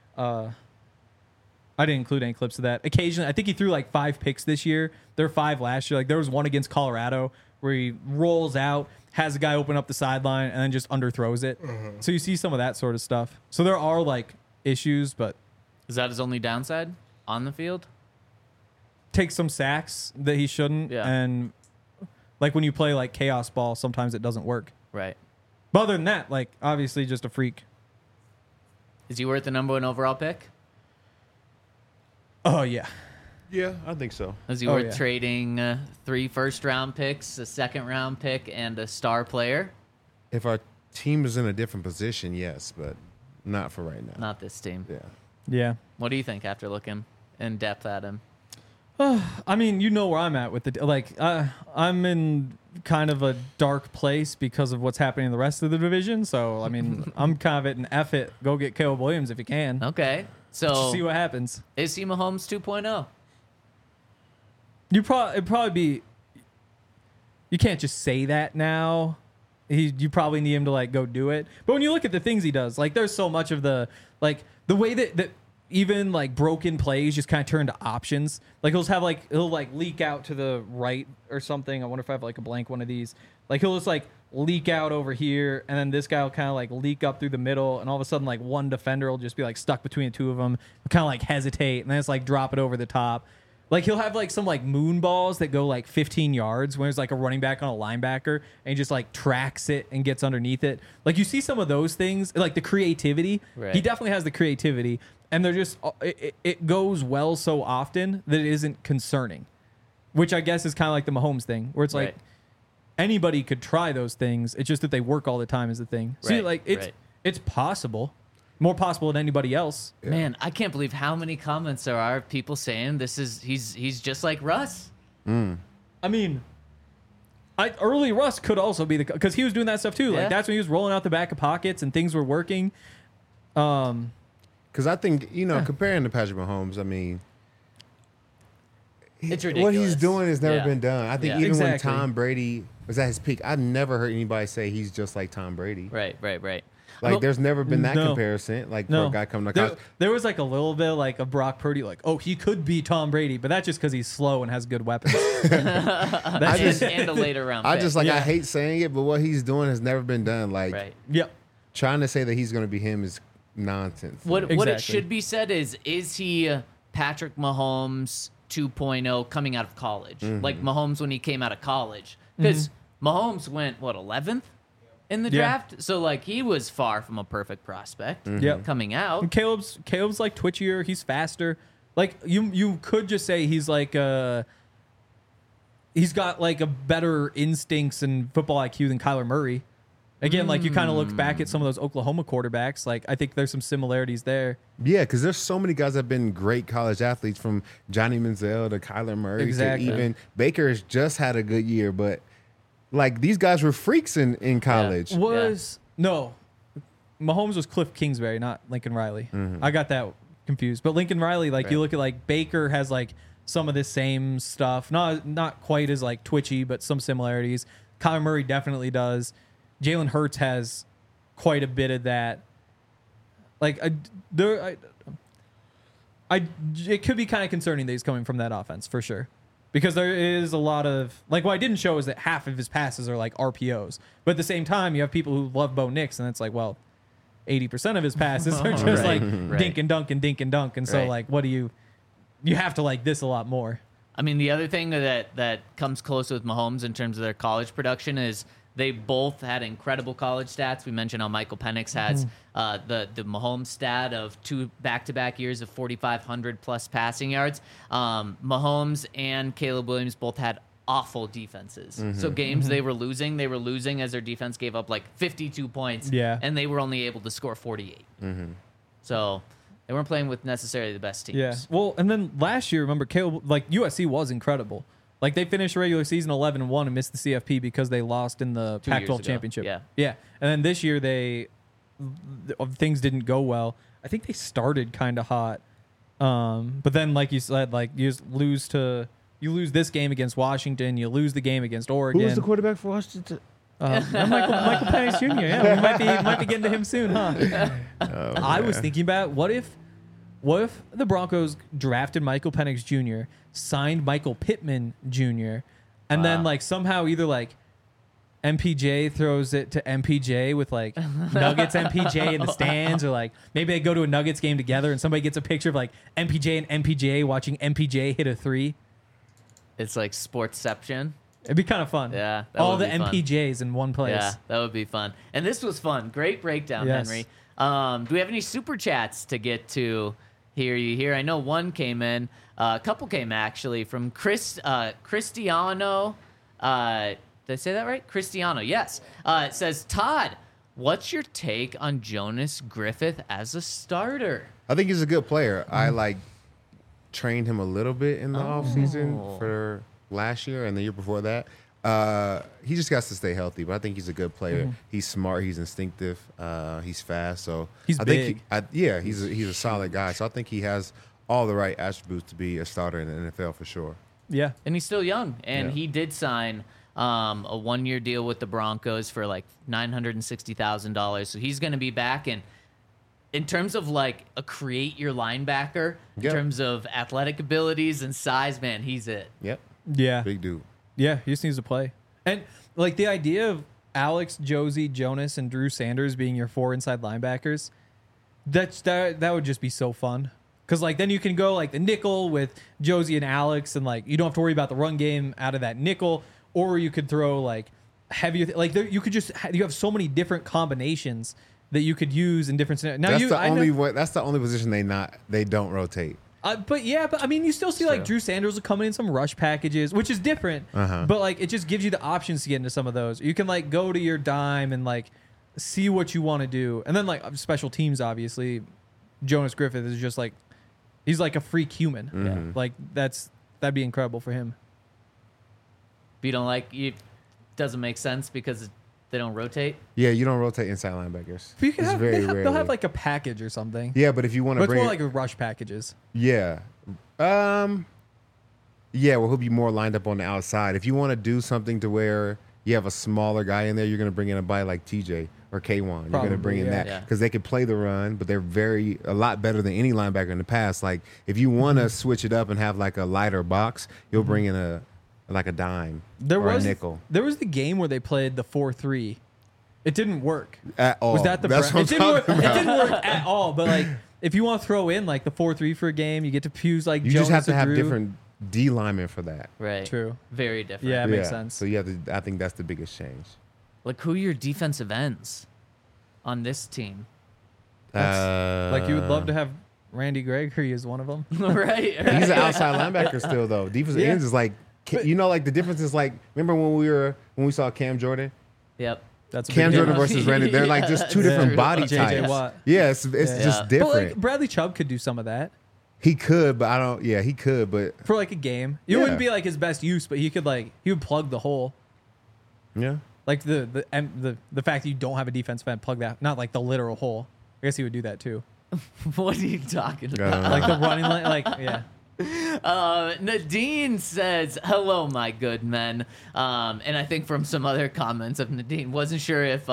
I didn't include any clips of that. Occasionally, I think he threw like 5 picks this year. There were 5 last year. Like there was one against Colorado where he rolls out, has a guy open up the sideline, and then just underthrows it. So you see some of that sort of stuff. So there are like issues, but Is that his only downside on the field? takes some sacks that he shouldn't. Yeah. And like when you play like chaos ball, sometimes it doesn't work. Right. But other than that, like obviously just a freak. Is he worth the number 1 overall pick? Oh yeah. Yeah, I think so. Is he Oh, worth yeah. trading 3 first-round picks, a second-round pick, and a star player? If our team is in a different position, yes, but not for right now. Not this team. Yeah. Yeah. What do you think after looking in depth at him? I mean, you know where I'm at with the like. I'm in kind of a dark place because of what's happening in the rest of the division. So I mean, I'm kind of at an F it. Go get Caleb Williams if you can. Okay. So Just see what happens. is he Mahomes 2.0? It'd probably be. You can't just say that now. You probably need him to like go do it. But when you look at the things he does, like there's so much of the way that even like broken plays just kind of turn to options. Like he'll leak out to the right or something. I wonder if I have like a blank one of these. Like he'll just like leak out over here, and then this guy will kind of like leak up through the middle, and all of a sudden like one defender will just be like stuck between the two of them, kind of like hesitate, and then it's like drop it over the top. Like he'll have like some like moon balls that go like 15 yards when there's like a running back on a linebacker and he just like tracks it and gets underneath it. Like you see some of those things, like the creativity. Right. He definitely has the creativity, and they're just it goes well so often that it isn't concerning, which I guess is kind of like the Mahomes thing, where it's like Right. anybody could try those things. It's just that they work all the time is the thing. See, Right, like right. it's possible, more possible than anybody else. Man, I can't believe how many comments there are of people saying he's just like Russ. I mean, early Russ could also be because he was doing that stuff too. Yeah. Like that's when he was rolling out the back of pockets and things were working. Because I think, comparing to Patrick Mahomes, I mean, It's what ridiculous. he's doing has never Yeah. been done. I think Yeah. even Exactly. when Tom Brady was at his peak, I never heard anybody say he's just like Tom Brady. Right. Like, Well, there's never been that no. comparison. Like, for No, a guy coming to there, college. there was like a little bit like a Brock Purdy, like he could be Tom Brady, but that's just because he's slow and has good weapons. I just, and a later round I pick. just like, Yeah. I hate saying it, but what he's doing has never been done. Like, Right. Yep. trying to say that he's going to be him is nonsense. What it Exactly. should be said is he Patrick Mahomes 2.0 coming out of college? Like Mahomes when he came out of college. Because Mahomes went, 11th in the Yeah. draft? So, like, he was far from a perfect prospect Yep. coming out. And Caleb's like twitchier. He's faster. Like you could just say he's like he's got like a better instincts and football IQ than Kyler Murray. Again, like you kind of look back at some of those Oklahoma quarterbacks. Like I think there's some similarities there. Yeah, because there's so many guys that have been great college athletes, from Johnny Manziel to Kyler Murray Exactly. to even Baker has just had a good year. But, like, these guys were freaks in college. No, Mahomes was Cliff Kingsbury, not Lincoln Riley. I got that confused. But Lincoln Riley, like you look at like Baker has like some of the same stuff, not quite as like twitchy, but some similarities. Kyler Murray definitely does. Jalen Hurts has quite a bit of that. Like it could be kind of concerning that he's coming from that offense for sure. Because there is a lot of, like, what I didn't show is that half of his passes are like RPOs. But at the same time, you have people who love Bo Nix, and it's like, well, 80% of his passes are just Right, like right. dink and dunk and dink and dunk. And so, Right. like, what do you have to like this a lot more. I mean, the other thing that comes close with Mahomes in terms of their college production is they both had incredible college stats. We mentioned how Michael Penix has the Mahomes stat of 2 back-to-back years of 4,500 plus passing yards. Mahomes and Caleb Williams both had awful defenses. So games they were losing as their defense gave up like 52 points. Yeah. And they were only able to score 48. So They weren't playing with necessarily the best teams. Yeah. Well, and then last year, remember, Caleb, like USC was incredible. Like they finished regular season 11-1 and missed the CFP because they lost in the 2 years Pac-12 ago. championship. Yeah. Yeah. And then this year things didn't go well. I think they started kind of hot. But then, like you said, like you lose this game against Washington, you lose the game against Oregon. Who was the quarterback for Washington? Michael Penix Jr. Yeah, we might be getting to him soon, huh? I was thinking about what if the Broncos drafted Michael Penix Jr., signed Michael Pittman Jr., and then like somehow either like MPJ throws it to MPJ with like Nuggets MPJ in the stands, or like maybe they go to a Nuggets game together and somebody gets a picture of like MPJ and MPJ watching MPJ hit a 3. It's like Sportsception. It'd be kind of fun. Yeah, that all would the be fun. MPJs in one place. Yeah, that would be fun. And this was fun. Great breakdown, Yes. Henry. Do we have any super chats to get to here? I know one came in. A couple came actually from Cristiano. Did I say that right? Cristiano, yes. It says, Todd, what's your take on Jonas Griffith as a starter? I think he's a good player. I like trained him a little bit in the offseason for last year and the year before that. He just got to stay healthy, but I think he's a good player. He's smart. He's instinctive. He's fast. So He's I big. think he's a solid guy. So I think he has all the right attributes to be a starter in the NFL for sure. Yeah. And he's still young. And Yeah. he did sign a 1-year deal with the Broncos for like $960,000. So he's going to be back. And in terms of like a create your linebacker, in Yep. terms of athletic abilities and size, man, he's it. Yep. Yeah. Big dude. Yeah, he just needs to play. And like the idea of Alex, Josie, Jonas, and Drew Sanders being your 4 inside linebackers, that would just be so fun. Because like then you can go like the nickel with Josie and Alex, and like you don't have to worry about the run game out of that nickel, or you could throw like heavier. You could just you have so many different combinations that you could use in different scenarios. Now That's the only position they don't rotate. But I mean, you still see like True. Drew Sanders will come in some rush packages, which is different. But like, it just gives you the options to get into some of those. You can like go to your dime and like see what you want to do, and then like special teams. Obviously, Jonas Griffith is just like he's like a freak human. Mm-hmm. Like that'd be incredible for him. But you don't like it doesn't make sense because they don't rotate. Yeah, you don't rotate inside linebackers. But you can It's have, very they'll rarely. have like a package or something. Yeah, but if you want But to it's bring more like rush packages. yeah, well, he'll be more lined up on the outside. If you want to do something to where you have a smaller guy in there, you're going to bring in a guy like TJ or K1. You're going to Probably, bring in yeah. that Yeah. because they can play the run, but they're a lot better than any linebacker in the past. Like if you want to switch it up and have like a lighter box, you'll bring in a dime or a nickel. There was the game where they played the 4-3. It didn't work. At all. Was that the That's what it I'm didn't work, talking it about. didn't work at all. But like, if you want to throw in like the 4-3 for a game, you get to fuse like You Jonas just have to or have Drew. different D linemen for that. Right. True. Very different. Yeah, it makes sense. So you have to. I think that's the biggest change. Like, who are your defensive ends on this team? Like you would love to have Randy Gregory as one of them. right. He's an outside linebacker still, though. Defensive Yeah. ends is like, like the difference is like, remember when we saw Cam Jordan? Yep. That's a Cam big Jordan difference. versus Randy. They're like just two Yeah. different body JJ types. Watt. Yeah, it's Yeah. just But different. like Bradley Chubb could do some of that He could, but I don't. Yeah, he could, but for like a game. It Yeah. wouldn't be like his best use, but he would plug the hole. yeah. Like the fact that you don't have a defensive end, plug that, not like the literal hole. I guess he would do that too. What are you talking about? Like the running line, like yeah. Nadine says, "Hello, my good men," and I think from some other comments of Nadine, wasn't sure if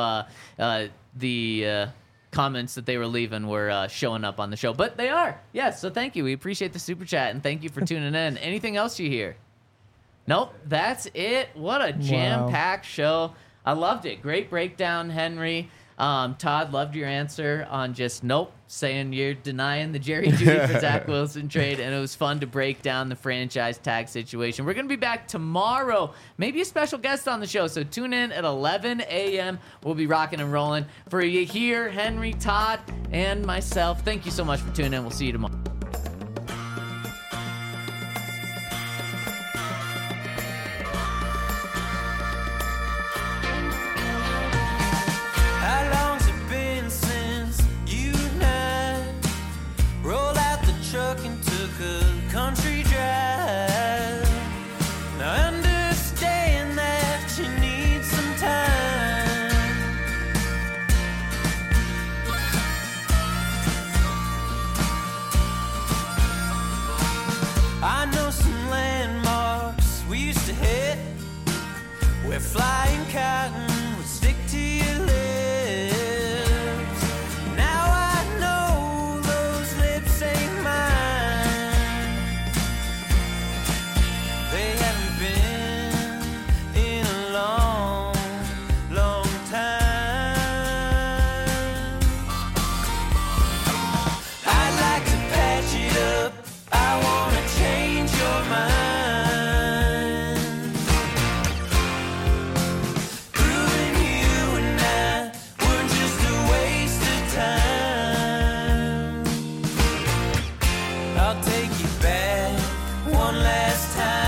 the comments that they were leaving were showing up on the show, but they are. Yes, so thank you. We appreciate the super chat and thank you for tuning in. Anything else you hear? Nope, that's it. What a jam-packed show. I loved it. Great breakdown, Henry. Todd, loved your answer on just nope, saying you're denying the Jerry Jeudy for Zach Wilson trade, and it was fun to break down the franchise tag situation. We're going to be back tomorrow, maybe a special guest on the show, so tune in at 11 a.m. We'll be rocking and rolling. For you here, Henry, Todd, and myself, thank you so much for tuning in. We'll see you tomorrow. How long's it been since you and I flying cotton would stick to your lips. Now I know those lips ain't mine. They haven't been in a long, long time. I'd like to patch it up. I wanna change your mind. Proving you and I were just a waste of time. I'll take you back one last time.